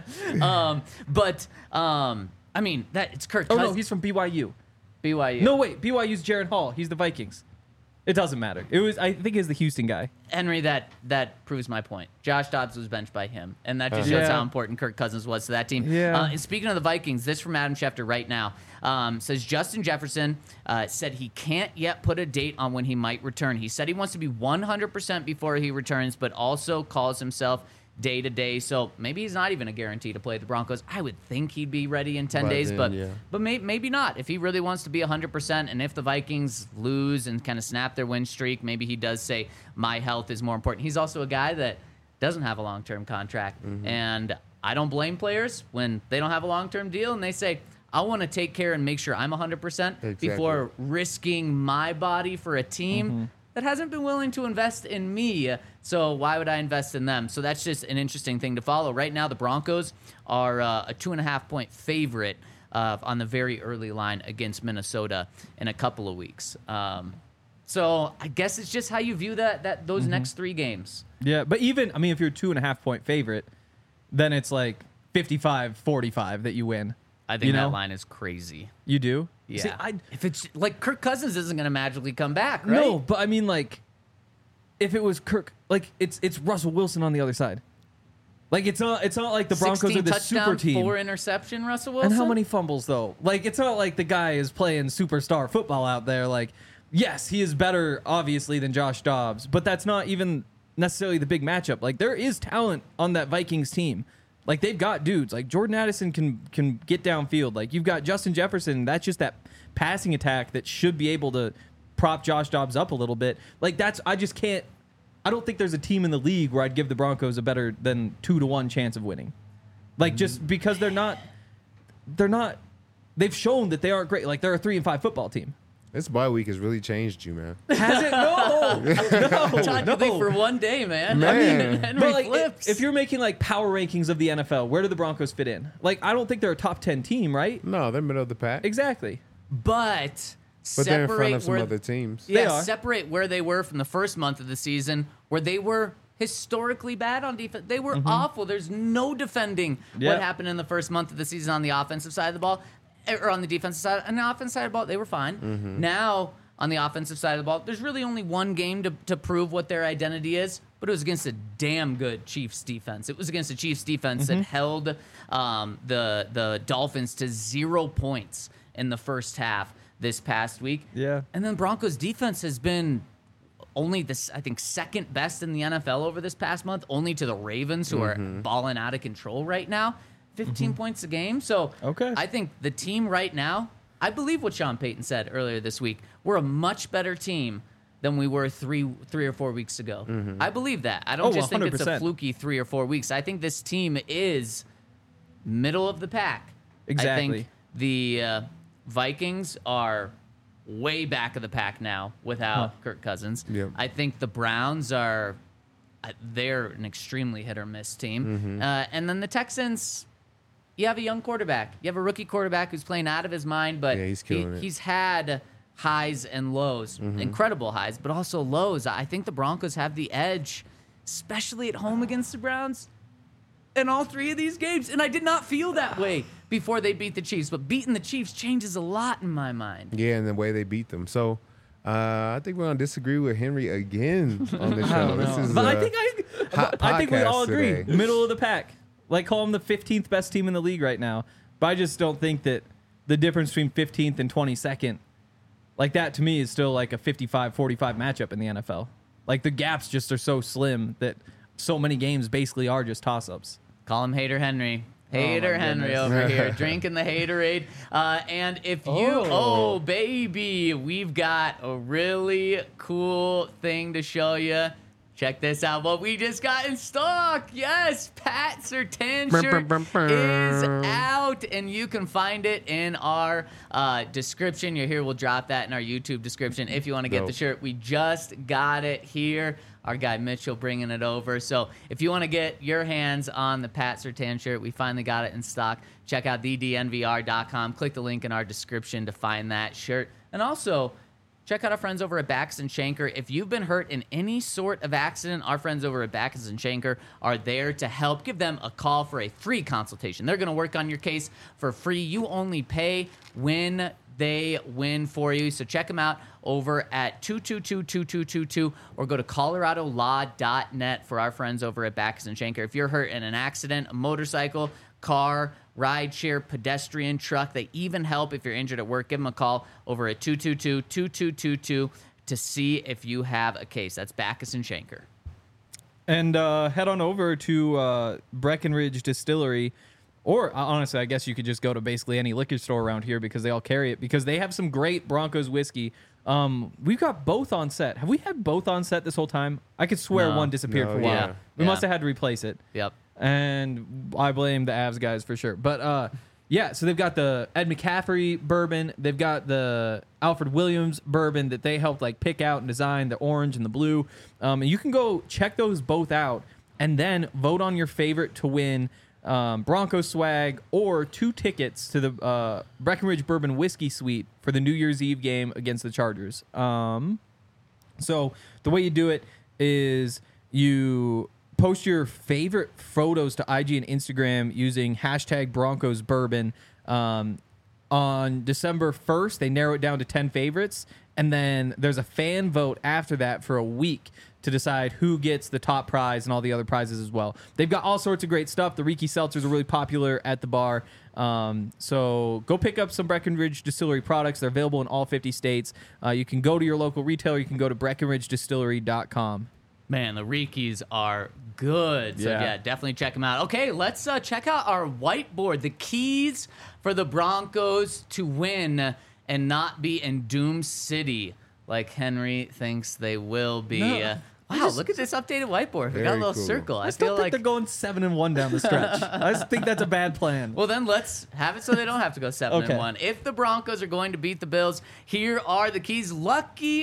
Speaker 2: I mean, it's Kirk
Speaker 3: Oh,
Speaker 2: Cousins.
Speaker 3: no, he's from BYU.
Speaker 2: BYU.
Speaker 3: No, wait. BYU's Jaron Hall. He's the Vikings. It doesn't matter. I think he's the Houston guy.
Speaker 2: Henry, that proves my point. Josh Dobbs was benched by him, and that just shows how important Kirk Cousins was to that team.
Speaker 3: Yeah.
Speaker 2: And speaking of the Vikings, this from Adam Schefter right now says Justin Jefferson said he can't yet put a date on when he might return. He said he wants to be 100% before he returns, but also calls himself day to day. So maybe he's not even a guarantee to play the Broncos. I would think he'd be ready in 10 days, but maybe not. If he really wants to be 100%, and if the Vikings lose and kind of snap their win streak, maybe he does say my health is more important. He's also a guy that doesn't have a long-term contract. And I don't blame players when they don't have a long-term deal and they say, I want to take care and make sure I'm 100% before risking my body for a team that hasn't been willing to invest in me. So why would I invest in them? So that's just an interesting thing to follow. Right now, the Broncos are a 2.5-point favorite on the very early line against Minnesota in a couple of weeks. So I guess it's just how you view those next 3 games.
Speaker 3: Yeah, but even, I mean, if you're a 2.5-point favorite, then it's like 55-45 that you win.
Speaker 2: I think that line is crazy.
Speaker 3: You do?
Speaker 2: Yeah.
Speaker 3: See,
Speaker 2: if it's like Kirk Cousins isn't going to magically come back, right?
Speaker 3: No, but I mean, like, if it was Kirk, like, it's Russell Wilson on the other side. Like, it's not like the Broncos are the super team.
Speaker 2: 4 interception, Russell Wilson.
Speaker 3: And how many fumbles, though? Like, it's not like the guy is playing superstar football out there. Like, yes, he is better, obviously, than Josh Dobbs, but that's not even necessarily the big matchup. Like, there is talent on that Vikings team. Like, they've got dudes. Like, Jordan Addison can get downfield. Like, you've got Justin Jefferson. That's just that passing attack that should be able to prop Josh Dobbs up a little bit. Like, I just can't. I don't think there's a team in the league where I'd give the Broncos a better than 2-1 chance of winning. Like, just because they're not. They've shown that they aren't great. Like, they're a 3-5 football team.
Speaker 4: This bye week has really changed you, man.
Speaker 3: Has it? No.
Speaker 2: For one day, man.
Speaker 4: Man.
Speaker 2: I mean, Henry
Speaker 3: But like,
Speaker 2: flips.
Speaker 3: if you're making like power rankings of the NFL, where do the Broncos fit in? Like, I don't think they're a top 10 team, right?
Speaker 4: No, they're middle of the pack.
Speaker 3: Exactly.
Speaker 2: But
Speaker 4: They're in front of some
Speaker 2: where-
Speaker 4: other teams.
Speaker 3: They
Speaker 2: Yeah,
Speaker 3: are.
Speaker 2: separate where they were from the first month of the season, where they were historically bad on defense. They were awful. There's no defending
Speaker 3: Yeah.
Speaker 2: what happened in the first month of the season on the offensive side of the ball, or on the defensive side. On the offensive side of the ball, they were fine. Now, on the offensive side of the ball, there's really only one game to prove what their identity is, but it was against a damn good Chiefs defense. It was against the Chiefs defense that held the Dolphins to 0 points in the first half this past week.
Speaker 3: Yeah.
Speaker 2: And then Broncos defense has been only I think second best in the NFL over this past month, only to the Ravens, who are balling out of control right now. 15 points a game. So
Speaker 3: Okay.
Speaker 2: I think the team right now, I believe what Sean Payton said earlier this week. We're a much better team than we were three or 4 weeks ago. I believe that. I don't just think it's a
Speaker 3: 100%.
Speaker 2: fluky 3 or 4 weeks. I think this team is middle of the pack. I
Speaker 3: Exactly.
Speaker 2: think the Vikings are way back of the pack now without Kirk Cousins.
Speaker 4: Yep.
Speaker 2: I think the Browns are they're an extremely hit or miss team. And then the Texans, you have a young quarterback. You have a rookie quarterback who's playing out of his mind, but
Speaker 4: Yeah, he's killing it.
Speaker 2: he's had highs and lows, incredible highs, but also lows. I think the Broncos have the edge, especially at home against the Browns in all 3 of these games. And I did not feel that way before they beat the Chiefs, but beating the Chiefs changes a lot in my mind.
Speaker 4: Yeah, and the way they beat them. So I think we're going to disagree with Henry again on the show. This is
Speaker 3: But
Speaker 4: a
Speaker 3: I think we
Speaker 4: podcast
Speaker 3: all agree.
Speaker 4: today.
Speaker 3: Middle of the pack. Like, call them the 15th best team in the league right now. But I just don't think that the difference between 15th and 22nd, like that to me is still like a 55-45 matchup in the NFL. Like, the gaps just are so slim that so many games basically are just toss-ups.
Speaker 2: Call him Hater Henry. Hater Henry
Speaker 3: goodness.
Speaker 2: over here, drinking the haterade. And if you, baby, we've got a really cool thing to show you. Check this out. What we just got in stock. Yes, Pat Surtain shirt is out, and you can find it in our description. You're here. We'll drop that in our YouTube description if you want to get the
Speaker 4: Dope.
Speaker 2: shirt. We just got it here. Our guy Mitchell bringing it over. So if you want to get your hands on the Pat Surtain shirt, we finally got it in stock. Check out thednvr.com. Click the link in our description to find that shirt. And also, check out our friends over at Backus & Shanker. If you've been hurt in any sort of accident, our friends over at Backus & Shanker are there to help. Give them a call for a free consultation. They're going to work on your case for free. You only pay when they win for you. So check them out over at 222-2222 or go to coloradolaw.net for our friends over at Backus & Shanker. If you're hurt in an accident, a motorcycle, car, rideshare, pedestrian, truck, they even help if you're injured at work. Give them a call over at 222-2222 to see if you have a case. That's Backus & Shanker.
Speaker 3: And head on over to Breckenridge Distillery. Or, honestly, I guess you could just go to basically any liquor store around here because they all carry it. Because they have some great Broncos whiskey We've got both on set. Have we had both on set this whole time? I could swear
Speaker 2: No.
Speaker 3: one disappeared
Speaker 4: No,
Speaker 3: for a while.
Speaker 2: yeah.
Speaker 3: We
Speaker 2: Yeah.
Speaker 3: must have had to replace it.
Speaker 2: Yep.
Speaker 3: And I blame the Avs guys for sure. But yeah, so they've got the Ed McCaffrey bourbon. They've got the Alfred Williams bourbon that they helped like pick out and design, the orange and the blue. And you can go check those both out and then vote on your favorite to win Broncos swag or 2 tickets to the Breckenridge Bourbon Whiskey Suite for the New Year's Eve game against the Chargers. So the way you do it is you post your favorite photos to IG and Instagram using hashtag Broncos Bourbon. On December 1st, they narrow it down to 10 favorites. And then there's a fan vote after that for a week to decide who gets the top prize and all the other prizes as well. They've got all sorts of great stuff. The Riki seltzers are really popular at the bar. So go pick up some Breckenridge Distillery products. They're available in all 50 states. You can go to your local retailer. You can go to BreckenridgeDistillery.com.
Speaker 2: Man, the Rikis are good. So,
Speaker 3: Yeah.
Speaker 2: yeah, definitely check them out. Okay, let's check out our whiteboard. The keys for the Broncos to win and not be in Doom City like Henry thinks they will be.
Speaker 3: No.
Speaker 2: Wow, look at this updated whiteboard. We got a
Speaker 4: Very
Speaker 2: little
Speaker 4: cool.
Speaker 2: circle.
Speaker 3: I
Speaker 2: I
Speaker 3: still
Speaker 2: feel
Speaker 3: think
Speaker 2: like.
Speaker 3: they're going 7-1 down the stretch. I just think that's a bad plan.
Speaker 2: Well, then let's have it so they don't have to go 7-1.
Speaker 3: Okay.
Speaker 2: If the Broncos are going to beat the Bills, here are the keys. Lucky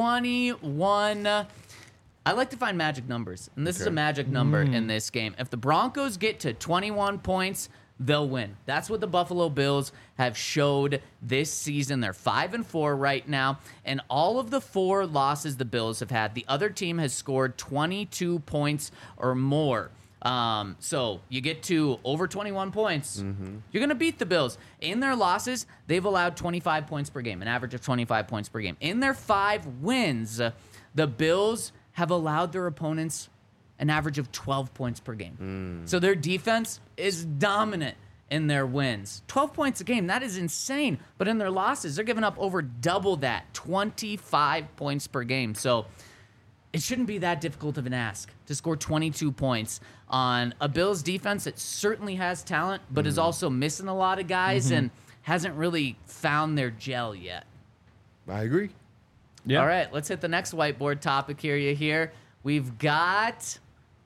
Speaker 2: 21. I like to find magic numbers, and this is a
Speaker 4: Okay.
Speaker 2: magic number in this game. If the Broncos get to 21 points, they'll win. That's what the Buffalo Bills have showed this season. They're 5-4 right now, and all of the 4 losses the Bills have had, the other team has scored 22 points or more. So you get to over 21 points, you're going to beat the Bills. In their losses, they've allowed 25 points per game, an average of 25 points per game. In their 5 wins, the Bills have allowed their opponents an average of 12 points per game. So their defense is dominant in their wins. 12 points a game, that is insane. But in their losses, they're giving up over double that, 25 points per game. So it shouldn't be that difficult of an ask to score 22 points on a Bills defense that certainly has talent, but is also missing a lot of guys and hasn't really found their gel yet.
Speaker 4: I agree.
Speaker 3: Yeah.
Speaker 2: All right, let's hit the next whiteboard topic here. You hear? We've got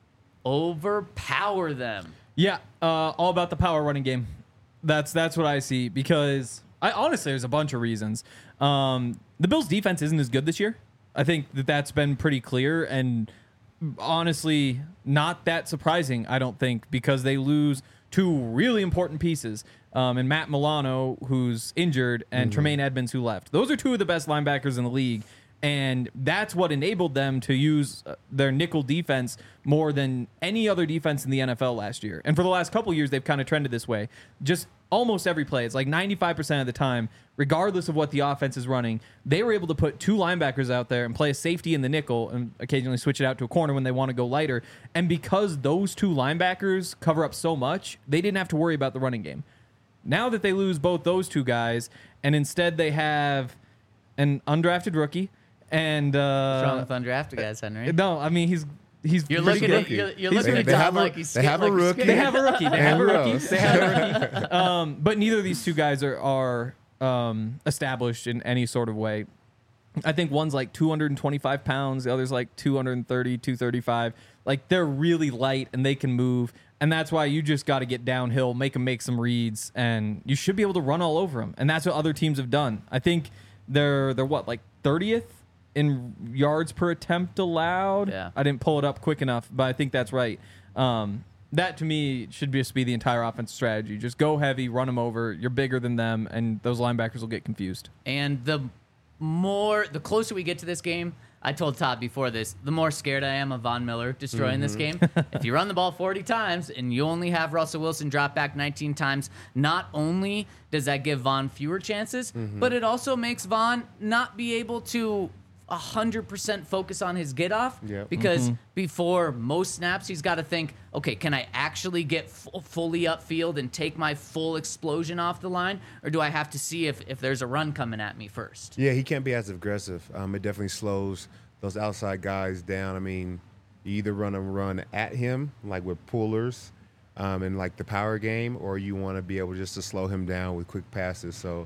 Speaker 2: overpower them.
Speaker 3: Yeah, all about the power running game. That's what I see because I honestly there's a bunch of reasons. The Bills' defense isn't as good this year. I think that's been pretty clear and honestly not that surprising. I don't think because they lose 2 really important pieces. And Matt Milano, who's injured, and Tremaine Edmonds, who left. Those are 2 of the best linebackers in the league. And that's what enabled them to use their nickel defense more than any other defense in the NFL last year. And for the last couple years, they've kind of trended this way. Just almost every play, it's like 95% of the time, regardless of what the offense is running, they were able to put 2 linebackers out there and play a safety in the nickel and occasionally switch it out to a corner when they want to go lighter. And because those 2 linebackers cover up so much, they didn't have to worry about the running game. Now that they lose both those 2 guys, and instead they have an undrafted rookie and
Speaker 2: What's wrong with undrafted guys, Henry?
Speaker 3: no, I mean he's
Speaker 2: You're
Speaker 3: pretty
Speaker 2: looking at
Speaker 3: good.
Speaker 2: you're
Speaker 3: He's
Speaker 2: looking
Speaker 3: pretty
Speaker 2: at
Speaker 4: They
Speaker 2: Tom
Speaker 4: have a-
Speaker 2: like he's
Speaker 4: they have a
Speaker 2: like he's
Speaker 4: rookie.
Speaker 3: They
Speaker 2: scared.
Speaker 3: have a rookie. They have a
Speaker 4: And
Speaker 3: rookie.
Speaker 4: Rose.
Speaker 3: They have a rookie. But neither of these 2 guys are established in any sort of way. I think one's like 225 pounds. The other's like 230, 235. Like they're really light and they can move. And that's why you just got to get downhill, make them make some reads, and you should be able to run all over them. And that's what other teams have done. I think they're what, like 30th in yards per attempt allowed?
Speaker 2: Yeah.
Speaker 3: I didn't pull it up quick enough, but I think that's right. That to me should just be the entire offense strategy. Just go heavy, run them over. You're bigger than them, and those linebackers will get confused.
Speaker 2: And the closer we get to this game, I told Todd before this, the more scared I am of Von Miller destroying this game. If you run the ball 40 times and you only have Russell Wilson drop back 19 times, not only does that give Von fewer chances, but it also makes Von not be able to 100% focus on his get off
Speaker 4: Yep.
Speaker 2: because before most snaps, he's got to think, okay, can I actually get fully upfield and take my full explosion off the line? Or do I have to see if there's a run coming at me first?
Speaker 4: Yeah, he can't be as aggressive. It definitely slows those outside guys down. I mean, you either run at him, like with pullers in like the power game, or you want to be able just to slow him down with quick passes. So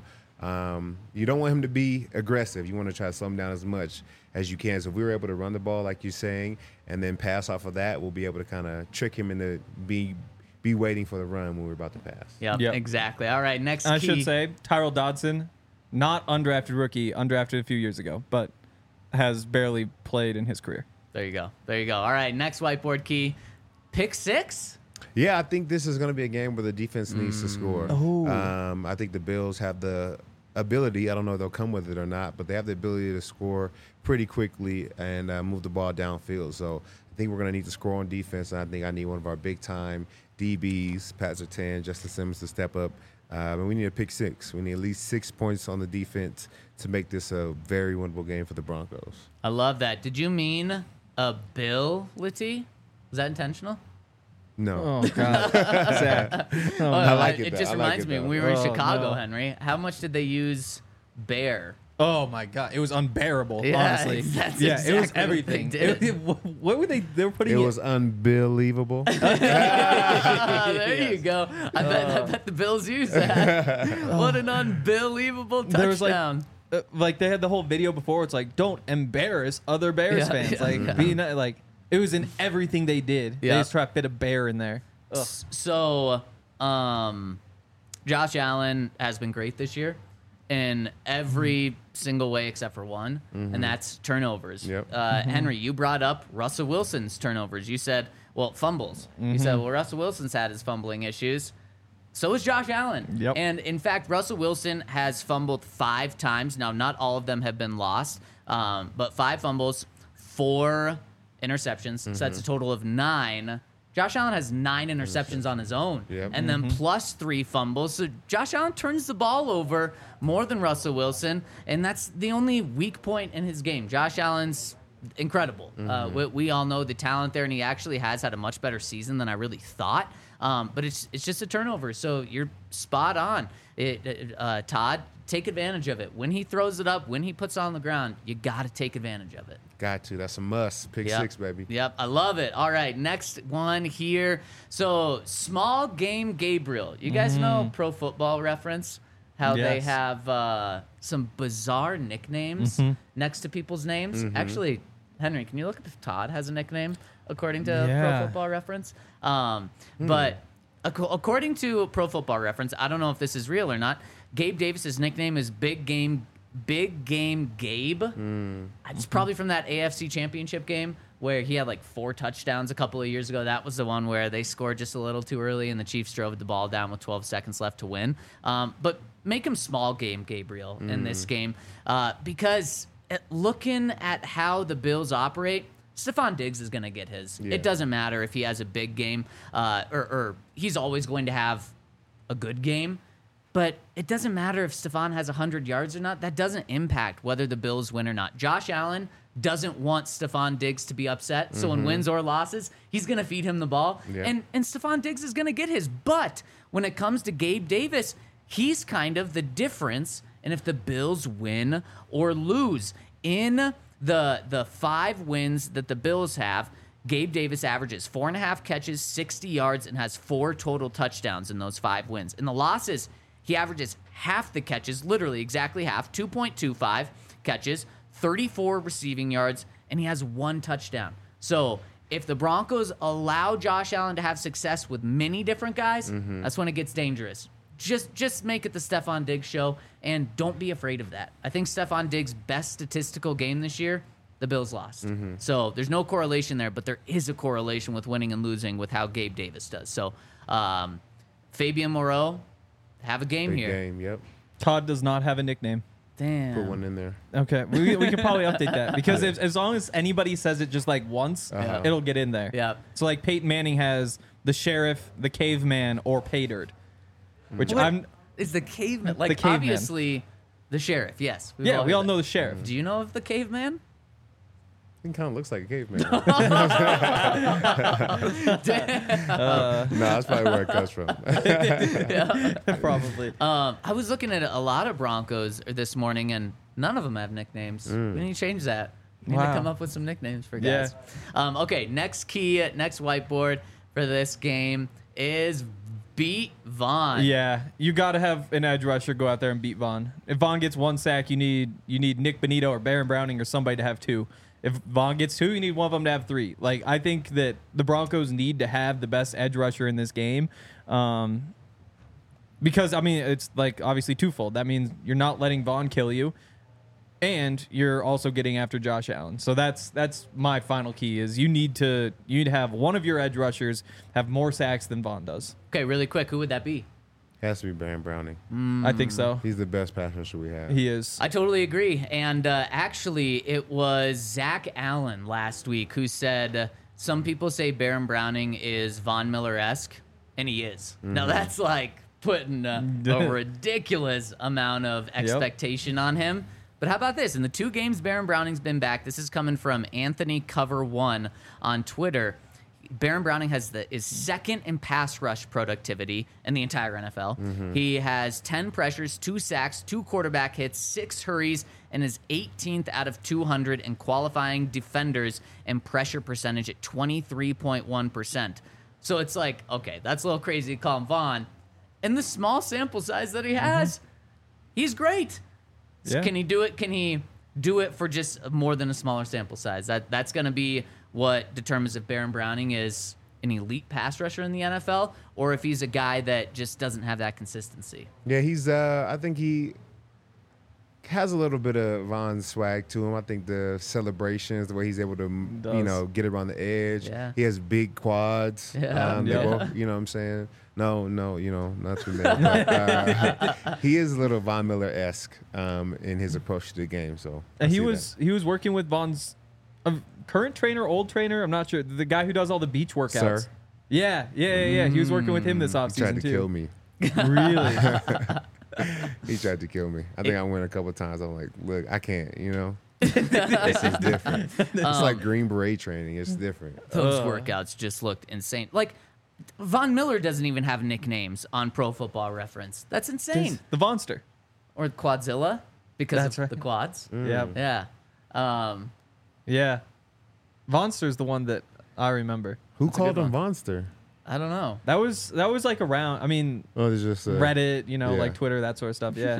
Speaker 4: You don't want him to be aggressive. You want to try to slow him down as much as you can. So if we were able to run the ball, like you're saying, and then pass off of that, we'll be able to kind of trick him into be waiting for the run when we're about to pass.
Speaker 2: Yep,
Speaker 3: Yep.
Speaker 2: exactly. All right, next
Speaker 3: I
Speaker 2: key.
Speaker 3: should say Tyrell Dodson, not undrafted rookie, undrafted a few years ago, but has barely played in his career.
Speaker 2: There you go. There you go. All right, next whiteboard key. Pick 6?
Speaker 4: Yeah, I think this is going to be a game where the defense needs to score.
Speaker 3: Oh.
Speaker 4: I think the Bills have the ability. I don't know if they'll come with it or not, but they have the ability to score pretty quickly and move the ball downfield. So I think we're going to need to score on defense, and I think I need one of our big-time DBs, Pat Surtain, Justin Simmons, to step up. And we need a pick 6. We need at least 6 points on the defense to make this a very winnable game for the Broncos.
Speaker 2: I love that. Did you mean ability? Was that intentional?
Speaker 4: No.
Speaker 3: Oh, God. Zach. Oh,
Speaker 4: I like it,
Speaker 2: It
Speaker 4: though.
Speaker 2: just
Speaker 4: I like
Speaker 2: reminds
Speaker 4: it,
Speaker 2: me,
Speaker 4: though.
Speaker 2: when we were in
Speaker 3: Oh,
Speaker 2: Chicago,
Speaker 3: no.
Speaker 2: Henry, how much did they use bear?
Speaker 3: Oh my God! It was unbearable.
Speaker 2: Yeah,
Speaker 3: honestly,
Speaker 2: that's
Speaker 3: yeah, it was
Speaker 2: exactly what they
Speaker 3: everything.
Speaker 2: did.
Speaker 3: What were they? They were putting
Speaker 4: It was unbelievable.
Speaker 2: There you go. I bet the Bills used that. What an unbelievable touchdown.
Speaker 3: There was like they had the whole video before. It's like, don't embarrass other Bears
Speaker 2: Yeah,
Speaker 3: fans.
Speaker 2: yeah,
Speaker 3: Like,
Speaker 2: yeah.
Speaker 3: be not, like it was in everything they did.
Speaker 2: Yeah.
Speaker 3: They just try to fit a bear in there. Ugh.
Speaker 2: So, Josh Allen has been great this year in every single way except for one, and that's turnovers.
Speaker 4: Yep.
Speaker 2: Henry, you brought up Russell Wilson's turnovers. You said, well, fumbles. You said, well, Russell Wilson's had his fumbling issues. So is Josh Allen.
Speaker 3: Yep.
Speaker 2: And in fact, Russell Wilson has fumbled 5 times. Now, not all of them have been lost, but 5 fumbles, 4 interceptions. So that's a total of 9. Josh Allen has 9 interceptions on his own,
Speaker 4: Yep.
Speaker 2: and then plus 3 fumbles. So Josh Allen turns the ball over more than Russell Wilson, and that's the only weak point in his game. Josh Allen's incredible. We all know the talent there, and he actually has had a much better season than I really thought. But it's just a turnover, so you're spot on. Todd, take advantage of it. When he throws it up, when he puts it on the ground, you got to take advantage of it.
Speaker 4: Got to. That's a must. Pick
Speaker 2: Yep.
Speaker 4: 6, baby.
Speaker 2: Yep, I love it. All right, next one here. So, Small Game Gabriel. You guys know Pro Football Reference? How they
Speaker 3: Yes.
Speaker 2: have some bizarre nicknames next to people's names. Actually, Henry, can you look if Todd has a nickname according to Pro
Speaker 3: Yeah.
Speaker 2: Football Reference? But according to Pro Football Reference, I don't know if this is real or not. Gabe Davis's nickname is Big Game Gabe. It's probably from that AFC Championship game where he had like 4 touchdowns a couple of years ago. That was the one where they scored just a little too early and the Chiefs drove the ball down with 12 seconds left to win. But make him Small Game Gabriel in this game because looking at how the Bills operate, Stephon Diggs is going to get his.
Speaker 4: Yeah.
Speaker 2: It doesn't matter if he has a big game or he's always going to have a good game. But it doesn't matter if Stephon has 100 yards or not. That doesn't impact whether the Bills win or not. Josh Allen doesn't want Stephon Diggs to be upset. So in wins or losses, he's going to feed him the ball.
Speaker 4: Yeah.
Speaker 2: And Stephon Diggs is going to get his. But when it comes to Gabe Davis, he's kind of the difference in if the Bills win or lose. In the 5 wins that the Bills have, Gabe Davis averages 4.5 catches, 60 yards, and has 4 total touchdowns in those 5 wins. In the losses, he averages half the catches, literally exactly half, 2.25 catches, 34 receiving yards, and he has 1 touchdown. So if the Broncos allow Josh Allen to have success with many different guys, that's when it gets dangerous. Just make it the Stephon Diggs show, and don't be afraid of that. I think Stephon Diggs' best statistical game this year, the Bills lost. So there's no correlation there, but there is a correlation with winning and losing with how Gabe Davis does. So Fabian Moreau, have a game
Speaker 4: Big
Speaker 2: here.
Speaker 4: game. Yep.
Speaker 3: Todd does not have a nickname.
Speaker 2: Damn.
Speaker 4: Put one in there.
Speaker 3: Okay, we can probably update that because as long as anybody says it just like once, it'll get in there.
Speaker 2: Yeah.
Speaker 3: So like Peyton Manning has the Sheriff, the Caveman, or Paydirt, which
Speaker 2: What
Speaker 3: I'm.
Speaker 2: is the caveman? Like
Speaker 3: The caveman.
Speaker 2: obviously the Sheriff. Yes.
Speaker 3: Yeah, we
Speaker 2: heard
Speaker 3: all
Speaker 2: that.
Speaker 3: know the Sheriff.
Speaker 2: Do you know of the caveman?
Speaker 4: He kind of looks like a caveman.
Speaker 3: Uh,
Speaker 4: No, that's probably where it comes from.
Speaker 3: Probably.
Speaker 2: I was looking at a lot of Broncos this morning, and none of them have nicknames. We need to change that. We need to
Speaker 3: Wow.
Speaker 2: come up with some nicknames for
Speaker 3: Yeah.
Speaker 2: guys. Okay, next whiteboard for this game is beat Vaughn.
Speaker 3: Yeah, you got to have an edge rusher go out there and beat Vaughn. If Vaughn gets 1 sack, you need Nick Bonito or Baron Browning or somebody to have 2. If Vaughn gets 2, you need one of them to have 3. Like, I think that the Broncos need to have the best edge rusher in this game. Because, I mean, it's like obviously twofold. That means you're not letting Vaughn kill you, and you're also getting after Josh Allen. So that's my final key is you need to have one of your edge rushers have more sacks than Vaughn does.
Speaker 2: Okay, really quick, who would that be?
Speaker 4: Has to be Baron Browning.
Speaker 3: I think so.
Speaker 4: He's the best pass rusher we have.
Speaker 3: He is.
Speaker 2: I totally agree. And actually, it was Zach Allen last week who said some people say Baron Browning is Von Miller-esque, and he is. Now, that's like putting a ridiculous amount of expectation on him. But how about this? In the 2 games Baron Browning's been back, this is coming from Anthony Cover 1 on Twitter. Baron Browning is second in pass rush productivity in the entire NFL. He has 10 pressures, 2 sacks, 2 quarterback hits, 6 hurries, and is 18th out of 200 in qualifying defenders and pressure percentage at 23.1%. So it's like, okay, that's a little crazy to call him Vaughn. And the small sample size that he has, he's great. So
Speaker 3: Yeah.
Speaker 2: can he do it? Can he do it for just more than a smaller sample size? That's going to be what determines if Baron Browning is an elite pass rusher in the NFL or if he's a guy that just doesn't have that consistency.
Speaker 4: Yeah, he's. I think he has a little bit of Von's swag to him. I think the celebrations, the way he's able to, get around the edge.
Speaker 2: Yeah.
Speaker 4: He has big quads.
Speaker 2: Yeah.
Speaker 4: They both, you know what I'm saying? No, not too many. But, he is a little Von Miller-esque in his approach to the game. So
Speaker 3: And he was working with Vaughn's current trainer, old trainer. I'm not sure. The guy who does all the beach workouts.
Speaker 4: Sir.
Speaker 3: Yeah. He was working with him this
Speaker 4: He
Speaker 3: offseason
Speaker 4: tried to
Speaker 3: too.
Speaker 4: kill me.
Speaker 3: Really?
Speaker 4: He tried to kill me. I think I went a couple of times. I'm like, look, I can't, This is different. It's like Green Beret training. It's different.
Speaker 2: Those workouts just looked insane. Like, Von Miller doesn't even have nicknames on Pro Football Reference. That's insane.
Speaker 3: The Vonster.
Speaker 2: Or Quadzilla because
Speaker 3: That's
Speaker 2: of
Speaker 3: right.
Speaker 2: the quads.
Speaker 3: Yeah.
Speaker 2: Yeah.
Speaker 3: Yeah. Vonster's the one that I remember.
Speaker 4: Who
Speaker 2: That's a
Speaker 4: called
Speaker 2: good
Speaker 4: him Monster?
Speaker 2: I don't know.
Speaker 3: That was like around. I mean,
Speaker 4: Oh, it's just
Speaker 3: Reddit,
Speaker 4: yeah.
Speaker 3: like Twitter, that sort of stuff. Yeah.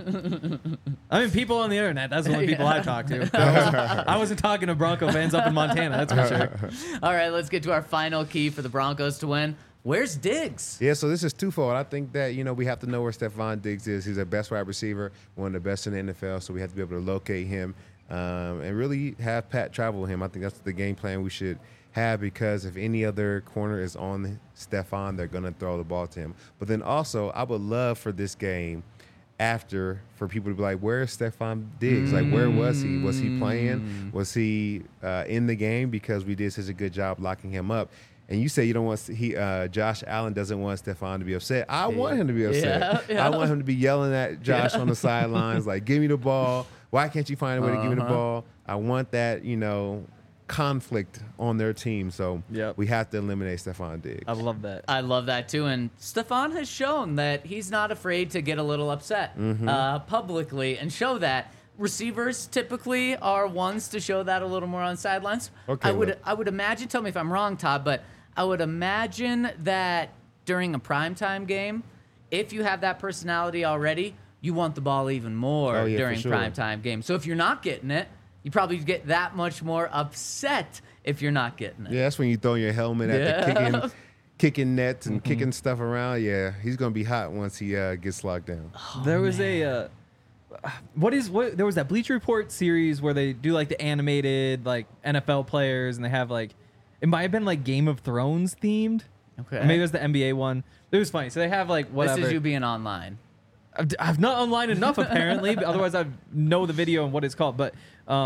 Speaker 3: I mean, people on the internet. That's the only people I talk to. I wasn't talking to Bronco fans up in Montana. That's for sure.
Speaker 2: All right, let's get to our final key for the Broncos to win. Where's Diggs?
Speaker 4: Yeah, so this is twofold. I think that, we have to know where Stephon Diggs is. He's our best wide receiver, one of the best in the NFL, so we have to be able to locate him and really have Pat travel him. I think that's the game plan we should have because if any other corner is on Stephon, they're going to throw the ball to him. But then also, I would love for this game for people to be like, where's Stephon Diggs? Like, where was he? Was he playing? Was he in the game? Because we did such a good job locking him up. And you say you don't want Josh Allen doesn't want Stephon to be upset. I want him to be upset.
Speaker 2: Yeah.
Speaker 4: I want him to be yelling at Josh on the sidelines, like, give me the ball. Why can't you find a way to give me the ball? I want that, conflict on their team. So we have to eliminate Stephon Diggs.
Speaker 3: I love that.
Speaker 2: I love that too. And Stephon has shown that he's not afraid to get a little upset publicly and show that. Receivers typically are ones to show that a little more on sidelines.
Speaker 4: Okay,
Speaker 2: I would imagine, tell me if I'm wrong, Todd, but I would imagine that during a primetime game, if you have that personality already, you want the ball even more during
Speaker 4: for sure.
Speaker 2: primetime games. So if you're not getting it, you probably get that much more upset if you're not getting it.
Speaker 4: Yeah, that's when you throw your helmet at the kicking nets and kicking stuff around. Yeah, he's going to be hot once he gets locked down.
Speaker 3: There was there was that Bleacher Report series where they do like the animated like NFL players and they have like it might have been like Game of Thrones themed.
Speaker 2: Okay.
Speaker 3: Or maybe it was the NBA one. It was funny. So they have like whatever.
Speaker 2: This is you being online.
Speaker 3: I've not online enough apparently, but otherwise I know the video and what it's called. But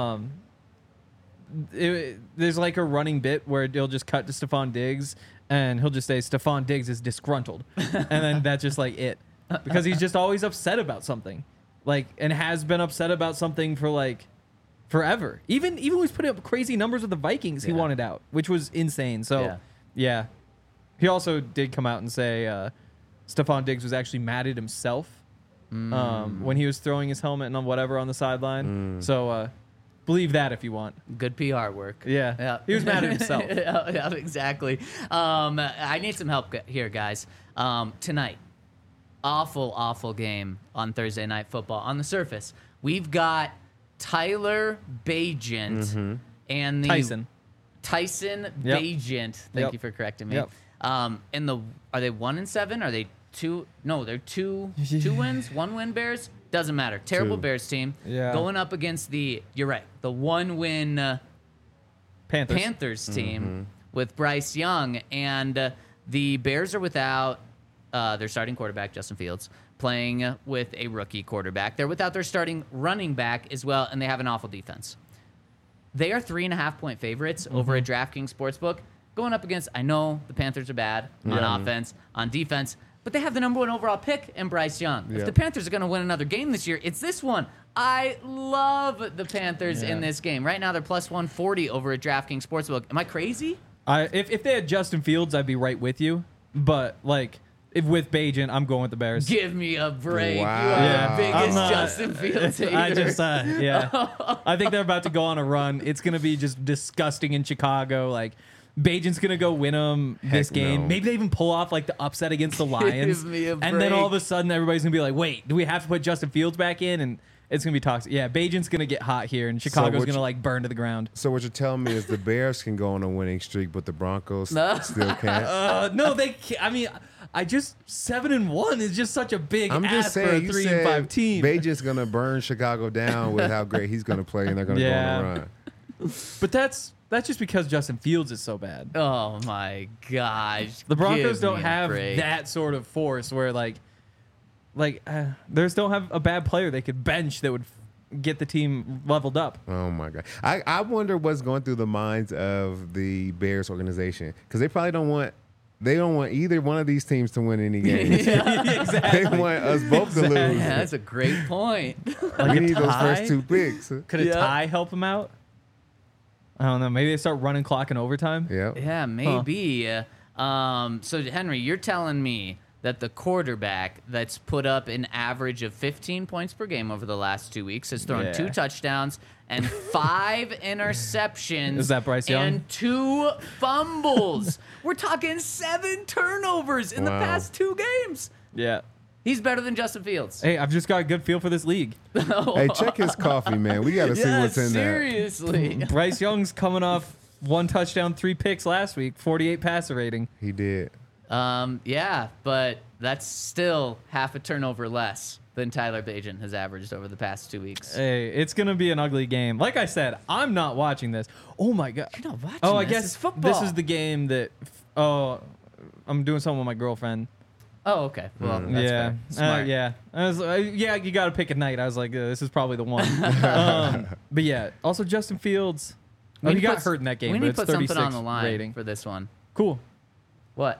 Speaker 3: there's like a running bit where they'll just cut to Stephon Diggs and he'll just say Stephon Diggs is disgruntled, and then that's just like it because he's just always upset about something, like and has been upset about something for like forever. Even when he was putting up crazy numbers with the Vikings, he wanted out, which was insane. So yeah. He also did come out and say Stephon Diggs was actually mad at himself when he was throwing his helmet and whatever on the sideline. So Believe that if you want.
Speaker 2: Good PR work.
Speaker 3: Yeah. He was mad at himself.
Speaker 2: Yeah, exactly. I need some help here, guys. Tonight, awful game on Thursday Night Football. On the surface, we've got Tyler Bagent and the Tyson
Speaker 3: Yep.
Speaker 2: Bagent. Thank you for correcting me.
Speaker 3: Yep.
Speaker 2: Are they 1-7? Are they two? No, they're two wins, 1-win Bears. Doesn't matter. Terrible
Speaker 4: Two.
Speaker 2: Bears team.
Speaker 3: Yeah.
Speaker 2: Going up against you're right, the 1-win
Speaker 3: Panthers.
Speaker 2: team with Bryce Young, and the Bears are without their starting quarterback Justin Fields, playing with a rookie quarterback. They're without their starting running back as well, and they have an awful defense. They are 3.5-point favorites over at DraftKings Sportsbook, going up against, I know the Panthers are bad on offense, on defense, but they have the number 1 overall pick in Bryce Young. If the Panthers are going to win another game this year, it's this one. I love the Panthers in this game. Right now, they're plus 140 over at DraftKings Sportsbook. Am I crazy?
Speaker 3: If they had Justin Fields, I'd be right with you. But, like, if with Bagent, I'm going with the Bears.
Speaker 2: Give me a break.
Speaker 4: Wow.
Speaker 2: You are
Speaker 3: Yeah.
Speaker 2: the biggest
Speaker 3: I'm not-
Speaker 2: Justin Fields hater.
Speaker 3: I just, I think they're about to go on a run. It's going to be just disgusting in Chicago. Like, Bagent's going to go win them this
Speaker 4: Heck
Speaker 3: game.
Speaker 4: no.
Speaker 3: Maybe they even pull off, like, the upset against the Lions.
Speaker 2: Give me a
Speaker 3: And then all of
Speaker 2: break.
Speaker 3: a sudden, everybody's going to be like, wait, do we have to put Justin Fields back in? And it's going to be toxic. Yeah, Bagent's going to get hot here, and Chicago's
Speaker 4: what
Speaker 3: going to,
Speaker 4: you-
Speaker 3: like, burn to the ground.
Speaker 4: So what you're telling me is the Bears can go on a winning streak, but the Broncos
Speaker 2: No.
Speaker 4: still can't.
Speaker 3: No, they can't. I mean, 7-1 is just such a big
Speaker 4: I'm just
Speaker 3: ask for a
Speaker 4: saying, you
Speaker 3: 3-5
Speaker 4: said
Speaker 3: team.
Speaker 4: Bagent's gonna burn Chicago down with how great he's gonna play, and they're gonna go on a run.
Speaker 3: But that's just because Justin Fields is so bad.
Speaker 2: Oh, my gosh.
Speaker 3: The Broncos
Speaker 2: Give
Speaker 3: don't
Speaker 2: me a
Speaker 3: have
Speaker 2: break.
Speaker 3: that sort of force where they don't have a bad player they could bench that would get the team leveled up.
Speaker 4: Oh my god! I wonder what's going through the minds of the Bears organization, because they probably don't want either one of these teams to win any games. They want us both to lose.
Speaker 2: Yeah, that's a great point.
Speaker 4: We need those
Speaker 3: tie?
Speaker 4: first 2 picks.
Speaker 3: Could a
Speaker 2: Yeah.
Speaker 3: tie help them out? I don't know. Maybe they start running clock in overtime.
Speaker 4: Yeah.
Speaker 2: Yeah, maybe. So, Henry, you're telling me that the quarterback that's put up an average of 15 points per game over the last 2 weeks has thrown
Speaker 3: Yeah.
Speaker 2: 2 touchdowns and 5 interceptions.
Speaker 3: Is that Bryce Young?
Speaker 2: And 2 fumbles. We're talking 7 turnovers in the
Speaker 4: Wow.
Speaker 2: past 2 games.
Speaker 3: Yeah.
Speaker 2: He's better than Justin Fields.
Speaker 3: Hey, I've just got a good feel for this league.
Speaker 4: Hey, check his coffee, man. We got to see
Speaker 2: Yeah,
Speaker 4: what's in there.
Speaker 2: seriously.
Speaker 3: Bryce Young's coming off 1 touchdown, 3 picks last week, 48 passer rating.
Speaker 4: He did.
Speaker 2: Yeah, but that's still half a turnover less than Tyler Bagent has averaged over the past 2 weeks.
Speaker 3: Hey, it's gonna be an ugly game. Like I said, I'm not watching this. Oh my god.
Speaker 2: You're not watching
Speaker 3: Oh, I
Speaker 2: this.
Speaker 3: guess
Speaker 2: It's football.
Speaker 3: this is the game that. Oh, I'm doing something with my girlfriend.
Speaker 2: Oh, okay. Well, that's
Speaker 3: Yeah,
Speaker 2: fair. Smart.
Speaker 3: yeah. I was, yeah, you got to pick a night. I was like, this is probably the one. But yeah, also Justin Fields.
Speaker 2: We
Speaker 3: Oh, he
Speaker 2: need to
Speaker 3: got
Speaker 2: put-
Speaker 3: hurt in that game.
Speaker 2: We
Speaker 3: but
Speaker 2: need
Speaker 3: it's
Speaker 2: to put
Speaker 3: 36
Speaker 2: something on the line
Speaker 3: rating.
Speaker 2: for this one.
Speaker 3: Cool.
Speaker 2: What?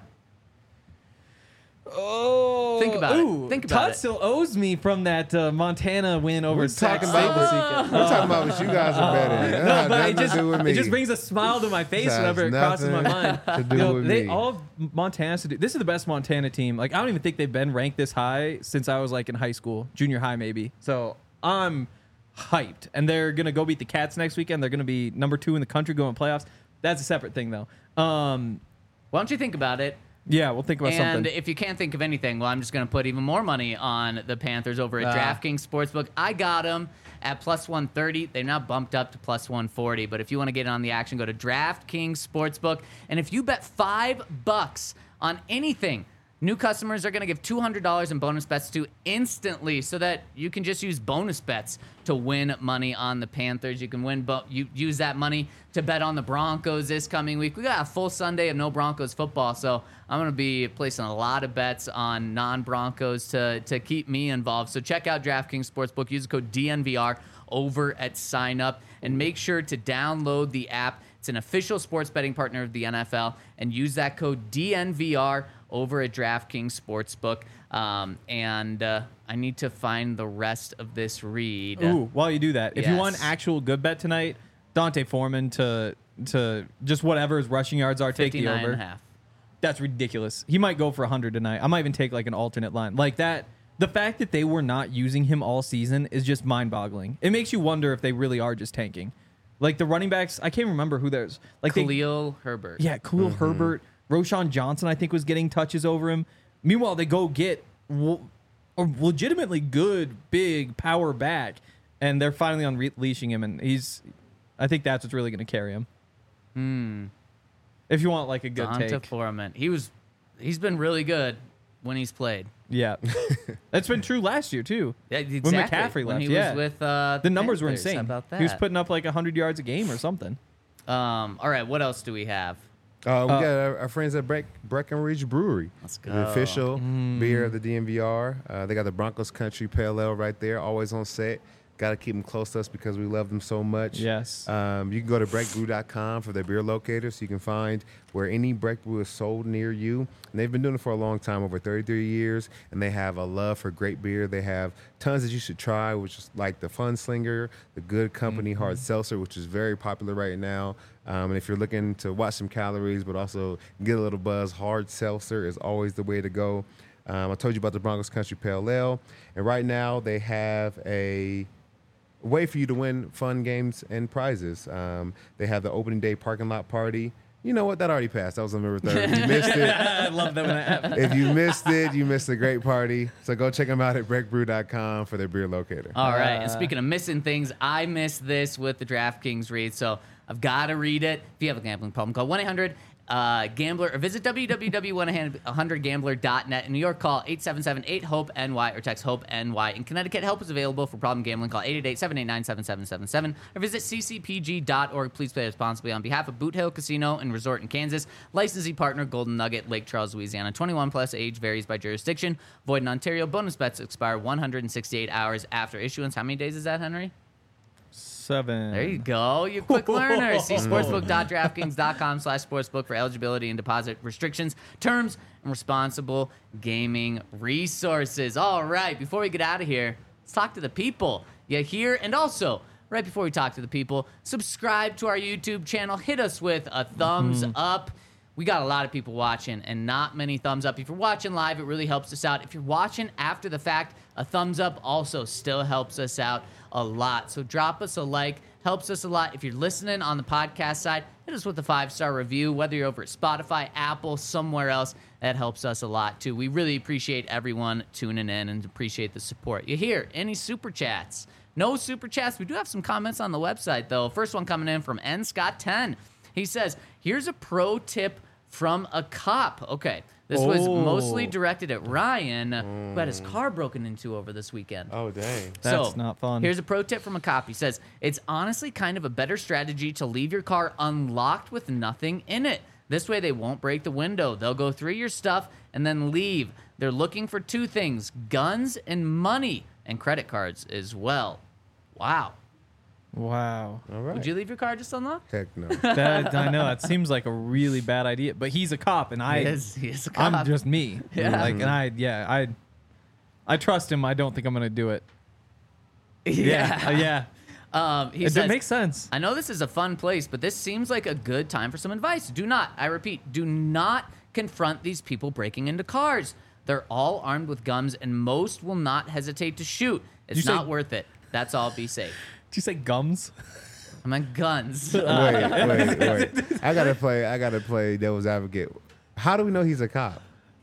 Speaker 3: Oh,
Speaker 2: Think about it. Think about
Speaker 3: Todd
Speaker 2: it.
Speaker 3: still owes me from that Montana win over
Speaker 4: We're
Speaker 3: Sac
Speaker 4: talking
Speaker 3: State
Speaker 4: about
Speaker 3: this
Speaker 4: what,
Speaker 3: weekend.
Speaker 4: we're talking about what you guys are betting. That
Speaker 3: No,
Speaker 4: has
Speaker 3: but
Speaker 4: nothing to do with me.
Speaker 3: it just brings a smile to my face
Speaker 4: Has
Speaker 3: whenever it crosses my mind.
Speaker 4: nothing to do
Speaker 3: You know,
Speaker 4: with
Speaker 3: they
Speaker 4: me.
Speaker 3: all Montana's to do. This is the best Montana team. Like I don't even think they've been ranked this high since I was like in high school, junior high maybe. So I'm hyped, and they're gonna go beat the Cats next weekend. They're gonna be number 2 in the country going playoffs. That's a separate thing though.
Speaker 2: Why don't you think about it?
Speaker 3: Yeah, we'll think about
Speaker 2: And
Speaker 3: something.
Speaker 2: if you can't think of anything, well, I'm just going to put even more money on the Panthers over at DraftKings Sportsbook. I got them at plus 130. They're now bumped up to plus 140. But if you want to get in on the action, go to DraftKings Sportsbook. And if you bet $5 on anything, new customers are going to give $200 in bonus bets to instantly, so that you can just use bonus bets to win money on the Panthers. You can you use that money to bet on the Broncos this coming week. We got a full Sunday of no Broncos football, so I'm going to be placing a lot of bets on non-Broncos to keep me involved. So check out DraftKings Sportsbook. Use the code DNVR over at sign up, and make sure to download the app. It's an official sports betting partner of the NFL, and use that code DNVR over at DraftKings Sportsbook. I need to find the rest of this read.
Speaker 3: Ooh, while you do that, if you
Speaker 2: Yes.
Speaker 3: want an actual good bet tonight, Dante Foreman to just whatever his rushing yards are, take the
Speaker 2: 59
Speaker 3: over.
Speaker 2: and a half.
Speaker 3: That's ridiculous. He might go for 100 tonight. I might even take like an alternate line. Like that the fact that they were not using him all season is just mind-boggling. It makes you wonder if they really are just tanking. Like the running backs, I can't remember who there's. Like
Speaker 2: Khalil Herbert.
Speaker 3: Yeah, Khalil Herbert. Roshan Johnson, I think, was getting touches over him. Meanwhile, they go get a legitimately good, big power back, and they're finally unleashing him, and I think that's what's really going to carry him. If you want like a good
Speaker 2: Donta
Speaker 3: take.
Speaker 2: Foreman. He's been really good when he's played.
Speaker 3: Yeah. That's been true last year, too.
Speaker 2: Yeah,
Speaker 3: When
Speaker 2: exactly.
Speaker 3: McCaffrey
Speaker 2: When
Speaker 3: left,
Speaker 2: he
Speaker 3: yeah.
Speaker 2: was with
Speaker 3: The numbers were
Speaker 2: Panthers.
Speaker 3: insane.
Speaker 2: How about that?
Speaker 3: He was putting up like 100 yards a game or something.
Speaker 2: All right, what else do we have?
Speaker 4: We got our friends at Breckenridge Brewery.
Speaker 2: Let's go.
Speaker 4: The official beer of the DMVR. They got the Broncos Country Pale Ale right there, always on set. Got to keep them close to us because we love them so much.
Speaker 3: Yes.
Speaker 4: You can go to breckbrew.com for their beer locator so you can find where any Breck Brew is sold near you. And they've been doing it for a long time, over 33 years, and they have a love for great beer. They have tons that you should try, which is like the Fun Slinger, the Good Company Hard Seltzer, which is very popular right now. And if you're looking to watch some calories but also get a little buzz, Hard Seltzer is always the way to go. I told you about the Broncos Country Pale Ale, and right now they have a way for you to win fun games and prizes. They have the opening day parking lot party. You know what? That already passed. That was on November 3rd. If you missed it,
Speaker 3: I love that when that happens.
Speaker 4: if you missed it, you missed a great party. So go check them out at breckbrew.com for their beer locator.
Speaker 2: All right, and speaking of missing things, I missed this with the DraftKings read, so I've got to read it. If you have a gambling problem, call 1-800-GAMBLER or visit www.100gambler.net. In New York, call 877-8-HOPE-NY or text HOPE-NY. In Connecticut, help is available for problem gambling. Call 888-789-7777 or visit ccpg.org. Please play responsibly on behalf of Boot Hill Casino and Resort in Kansas. Licensee partner, Golden Nugget, Lake Charles, Louisiana. 21 plus, age varies by jurisdiction. Void in Ontario. Bonus bets expire 168 hours after issuance. How many days is that, Henry?
Speaker 3: 7.
Speaker 2: There you go. You quick learner. See sportsbook.draftkings.com/sportsbook for eligibility and deposit restrictions, terms, and responsible gaming resources. All right. Before we get out of here, let's talk to the people. You hear? And also, right before we talk to the people, subscribe to our YouTube channel. Hit us with a thumbs up. We got a lot of people watching and not many thumbs up. If you're watching live, it really helps us out. If you're watching after the fact, a thumbs up also still helps us out a lot. So drop us a like, helps us a lot. If you're listening on the podcast side, hit us with a 5-star review, whether you're over at Spotify, Apple, somewhere else. That helps us a lot too. We really appreciate everyone tuning in and appreciate the support. You hear any super chats? No super chats. We do have some comments on the website though. First one coming in from Scott10. He says, here's a pro tip from a cop. Okay. This was mostly directed at Ryan, who had his car broken into over this weekend.
Speaker 4: Oh, dang.
Speaker 3: That's not fun.
Speaker 2: Here's a pro tip from a cop. He says, it's honestly kind of a better strategy to leave your car unlocked with nothing in it. This way they won't break the window. They'll go through your stuff and then leave. They're looking for 2 things, guns and money, and credit cards as well. Wow.
Speaker 3: Wow.
Speaker 4: All right.
Speaker 2: Would you leave your car just unlocked?
Speaker 4: Heck no.
Speaker 3: I know that seems like a really bad idea, but he's a cop, and
Speaker 2: He is a cop.
Speaker 3: I'm just me.
Speaker 2: Yeah.
Speaker 3: Like, and I trust him. I don't think I'm gonna do it.
Speaker 2: Yeah.
Speaker 3: Yeah.
Speaker 2: He
Speaker 3: It
Speaker 2: says,
Speaker 3: makes sense.
Speaker 2: I know this is a fun place, but this seems like a good time for some advice. Do not, I repeat, do not confront these people breaking into cars. They're all armed with guns, and most will not hesitate to shoot. It's
Speaker 3: You say-
Speaker 2: not worth it. That's all. Be safe.
Speaker 3: Did you say gums?
Speaker 2: I meant guns.
Speaker 4: wait. I gotta play devil's advocate. How do we know he's a cop?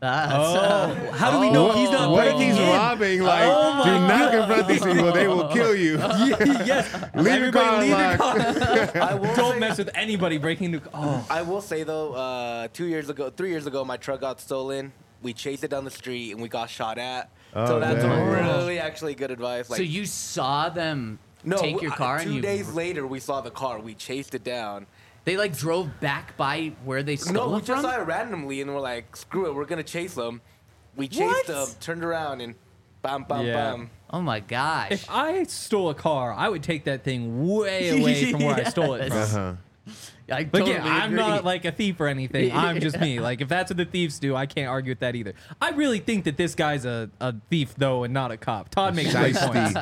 Speaker 3: How do we know he's not
Speaker 4: What if
Speaker 3: breaking
Speaker 4: he's
Speaker 3: in?
Speaker 4: robbing? Like, do not confront these people. They will kill you.
Speaker 3: Yes.
Speaker 4: Leave your car
Speaker 3: Everybody leave your
Speaker 4: unlocked.
Speaker 5: I will
Speaker 3: Don't
Speaker 5: say,
Speaker 3: mess with anybody breaking into. Oh.
Speaker 5: I will say though, 3 years ago, my truck got stolen. We chased it down the street and we got shot at.
Speaker 4: Oh,
Speaker 5: so that's
Speaker 4: dang.
Speaker 5: really actually good advice. Like,
Speaker 2: So you saw them
Speaker 5: no,
Speaker 2: take your car and
Speaker 5: 2
Speaker 2: you
Speaker 5: days later we saw the car. We chased it down.
Speaker 2: They like drove back by where they stole
Speaker 5: No, we
Speaker 2: it
Speaker 5: just
Speaker 2: from?
Speaker 5: saw it randomly and we're like, screw it, we're gonna chase them. We chased them, turned around and bam, bam,
Speaker 3: Yeah.
Speaker 5: bam.
Speaker 2: Oh my gosh.
Speaker 3: If I stole a car, I would take that thing way away from where I stole it from.
Speaker 2: Yes.
Speaker 4: Uh-huh.
Speaker 2: I
Speaker 3: Like,
Speaker 2: totally
Speaker 3: yeah, I'm
Speaker 2: agree.
Speaker 3: not like a thief or anything. I'm just me. Like, if that's what the thieves do, I can't argue with that either. I really think that this guy's a thief, though, and not a cop. Todd makes great points.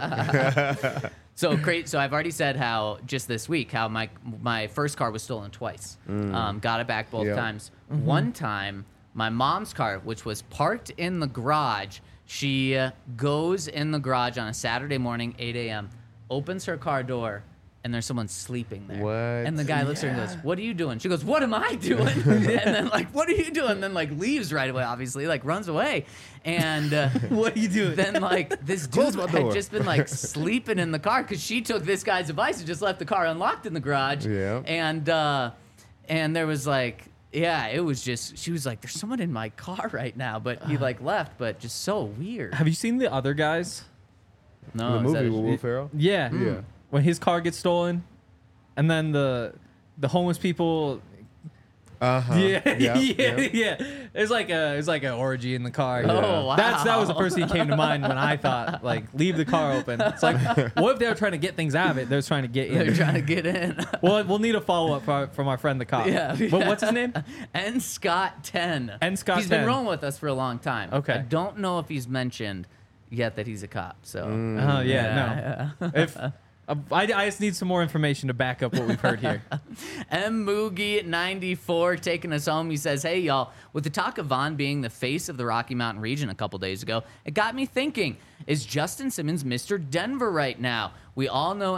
Speaker 2: So great. So I've already said how just this week how my first car was stolen twice. Got it back both
Speaker 4: Yeah.
Speaker 2: times. One time, my mom's car, which was parked in the garage, She goes in the garage on a Saturday morning, 8 a.m., opens her car door, and there's someone sleeping there.
Speaker 4: What?
Speaker 2: And the guy looks at her and goes, "What are you doing?" She goes, "What am I doing?" And then like, "What are you doing?" And then like leaves right away, obviously, like runs away. And
Speaker 3: What are you doing?
Speaker 2: then like this
Speaker 4: Close
Speaker 2: dude
Speaker 4: my
Speaker 2: had
Speaker 4: door.
Speaker 2: just been like sleeping in the car because she took this guy's advice and just left the car unlocked in the garage.
Speaker 4: Yeah.
Speaker 2: And there was like, yeah, it was just, she was like, "There's someone in my car right now," but he like left, but just so weird.
Speaker 3: Have you seen The Other Guys?
Speaker 2: No,
Speaker 4: The
Speaker 2: is that
Speaker 4: movie
Speaker 2: a-
Speaker 4: with Will Ferrell.
Speaker 3: Yeah.
Speaker 4: Yeah.
Speaker 3: When his car gets stolen, and then the homeless people. Yeah, yeah. It's like an orgy in the car.
Speaker 2: Oh, wow.
Speaker 3: That was the first thing that came to mind when I thought like leave the car open. It's like, what if they were trying to get things out of it? They're trying to get
Speaker 2: They're
Speaker 3: in.
Speaker 2: trying to get in.
Speaker 3: Well, we'll need a follow up from our friend the cop.
Speaker 2: Yeah.
Speaker 3: But what's his name?
Speaker 2: N. Scott 10.
Speaker 3: N. Scott
Speaker 2: He's been
Speaker 3: 10.
Speaker 2: rolling with us for a long time.
Speaker 3: Okay.
Speaker 2: I don't know if he's mentioned yet that he's a cop. So.
Speaker 3: Oh yeah, no. If I just need some more information to back up what we've heard here.
Speaker 2: M. Moogie 94 taking us home. He says, "Hey, y'all, with the talk of Vaughn being the face of the Rocky Mountain region a couple days ago, it got me thinking, is Justin Simmons Mr. Denver right now? We all know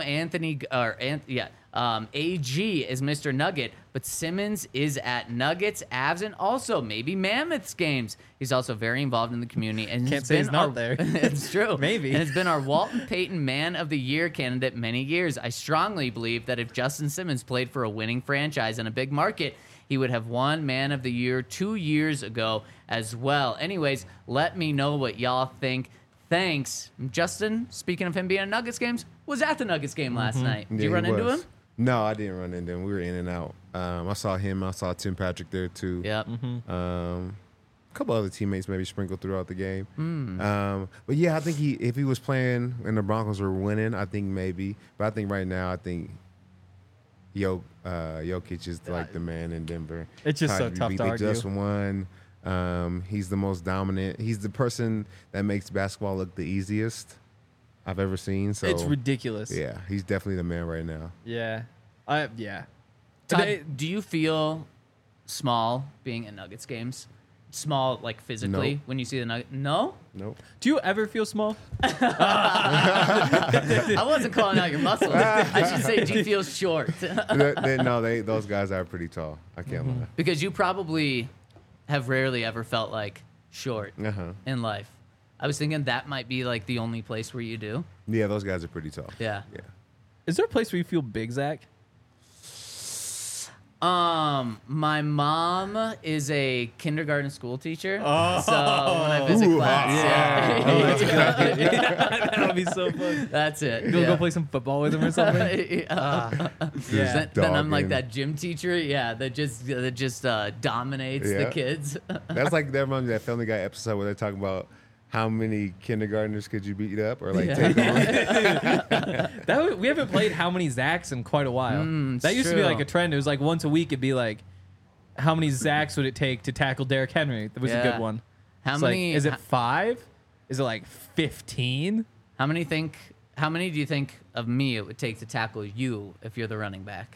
Speaker 2: AG is Mr. Nugget, but Simmons is at Nuggets, Avs, and also maybe Mammoths games. He's also very involved in the community. And
Speaker 3: Can't say he's not there.
Speaker 2: It's true.
Speaker 3: Maybe.
Speaker 2: And has been our Walton Payton Man of the Year candidate many years. I strongly believe that if Justin Simmons played for a winning franchise in a big market, he would have won Man of the Year 2 years ago as well. Anyways, let me know what y'all think. Thanks." Justin, speaking of him being at Nuggets games, was at the Nuggets game last night. Did
Speaker 4: Yeah,
Speaker 2: you
Speaker 4: he
Speaker 2: run into
Speaker 4: was.
Speaker 2: him?
Speaker 4: No, I didn't run into him. We were in and out. I saw him. I saw Tim Patrick there too.
Speaker 2: Yep.
Speaker 4: A couple other teammates maybe sprinkled throughout the game. But yeah, I think if he was playing and the Broncos were winning, I think maybe. But I think right now, I think Jokic is like the man in Denver.
Speaker 3: It's just so tough to
Speaker 4: They
Speaker 3: argue.
Speaker 4: just won. He's the most dominant. He's the person that makes basketball look the easiest I've ever seen. So
Speaker 3: It's ridiculous.
Speaker 4: Yeah, he's definitely the man right now.
Speaker 3: Yeah. Yeah.
Speaker 2: Todd, do you feel small being at Nuggets games? Small, like physically,
Speaker 4: No.
Speaker 2: when you see the Nuggets? No?
Speaker 4: Nope.
Speaker 3: Do you ever feel small?
Speaker 2: I wasn't calling out your muscles. I should say, do you feel short?
Speaker 4: Those guys are pretty tall. I can't lie.
Speaker 2: Because you probably have rarely ever felt like short
Speaker 4: Uh-huh.
Speaker 2: in life. I was thinking that might be like the only place where you do.
Speaker 4: Yeah, those guys are pretty tall.
Speaker 2: Yeah.
Speaker 4: Yeah.
Speaker 3: Is there a place where you feel big, Zach?
Speaker 2: My mom is a kindergarten school teacher. So when I visit class,
Speaker 3: That would be so fun.
Speaker 2: that's it.
Speaker 3: You'll
Speaker 2: yeah.
Speaker 3: go play some football with him or something?
Speaker 2: Yeah.
Speaker 3: Yeah.
Speaker 2: Then I'm like
Speaker 4: Dogging.
Speaker 2: that gym teacher, that just dominates the
Speaker 4: Yeah.
Speaker 2: kids.
Speaker 4: That's like that reminds me of that Family Guy episode where they're talking about how many kindergartners could you beat up or like take on.
Speaker 3: We haven't played How Many Zacks in quite a while.
Speaker 2: it's
Speaker 3: That used to be
Speaker 2: true.
Speaker 3: like a trend. It was like once a week it'd be like, how many Zacks would it take to tackle Derrick Henry? That was a
Speaker 2: Yeah.
Speaker 3: good one.
Speaker 2: How
Speaker 3: It's
Speaker 2: many?
Speaker 3: Like, is it 5? Is it like 15?
Speaker 2: How many do you think of me it would take to tackle you if you're the running back?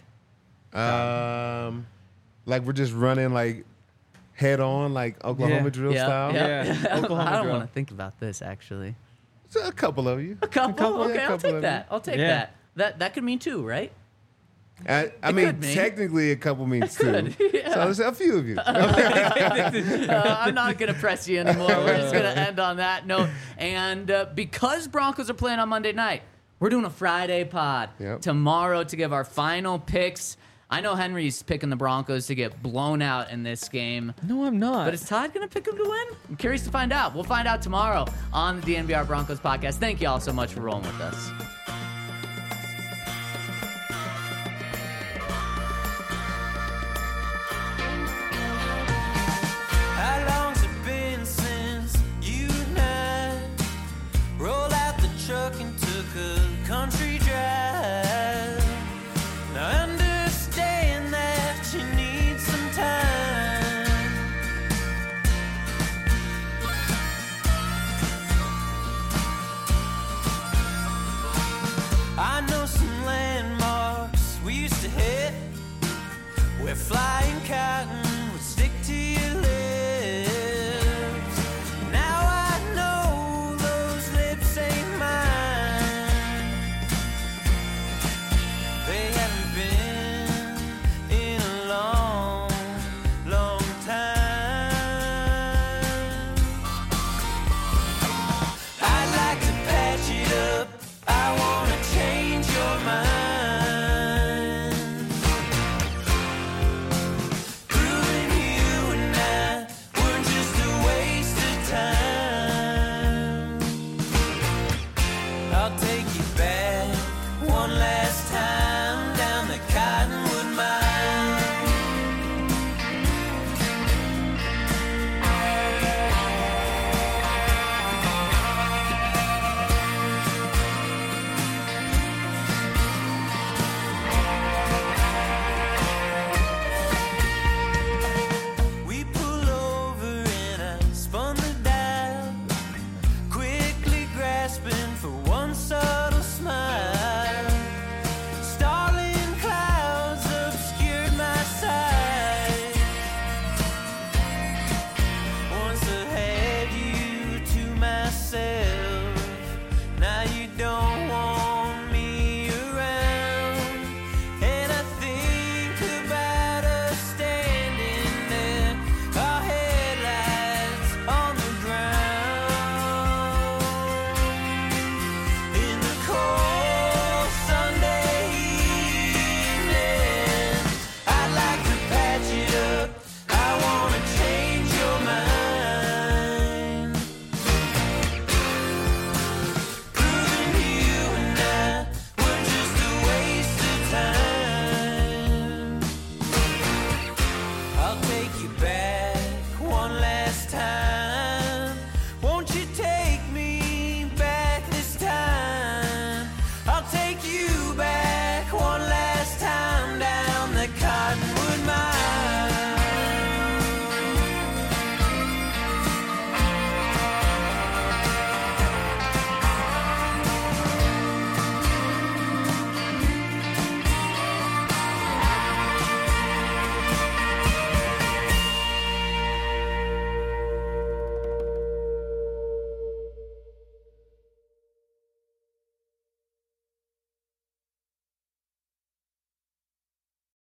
Speaker 4: Like we're just running like head on like Oklahoma
Speaker 3: Yeah.
Speaker 4: drill style.
Speaker 3: Yeah. Oklahoma
Speaker 2: I don't
Speaker 3: drill.
Speaker 2: want to think about this actually.
Speaker 4: So a couple of you.
Speaker 2: A couple? Okay,
Speaker 4: yeah, a
Speaker 2: I'll
Speaker 4: couple
Speaker 2: take
Speaker 4: of
Speaker 2: that. I'll take
Speaker 3: Yeah.
Speaker 2: that. That could mean 2, right?
Speaker 4: I
Speaker 2: It
Speaker 4: mean,
Speaker 2: could mean.
Speaker 4: technically a couple means 2.
Speaker 2: could, yeah.
Speaker 4: So there's a few of you.
Speaker 2: I'm not going to press you anymore. We're just going to end on that note. And because Broncos are playing on Monday night, we're doing a Friday pod
Speaker 4: Yep.
Speaker 2: tomorrow to give our final picks. I know Henry's picking the Broncos to get blown out in this game.
Speaker 3: No, I'm not.
Speaker 2: But is Todd going to pick him to win? I'm curious to find out. We'll find out tomorrow on the DNVR Broncos podcast. Thank you all so much for rolling with us.
Speaker 1: How long's it been since you and I rolled out the truck and took a country drive? Now I understand that you need some time. I know some landmarks we used to hit where flying cotton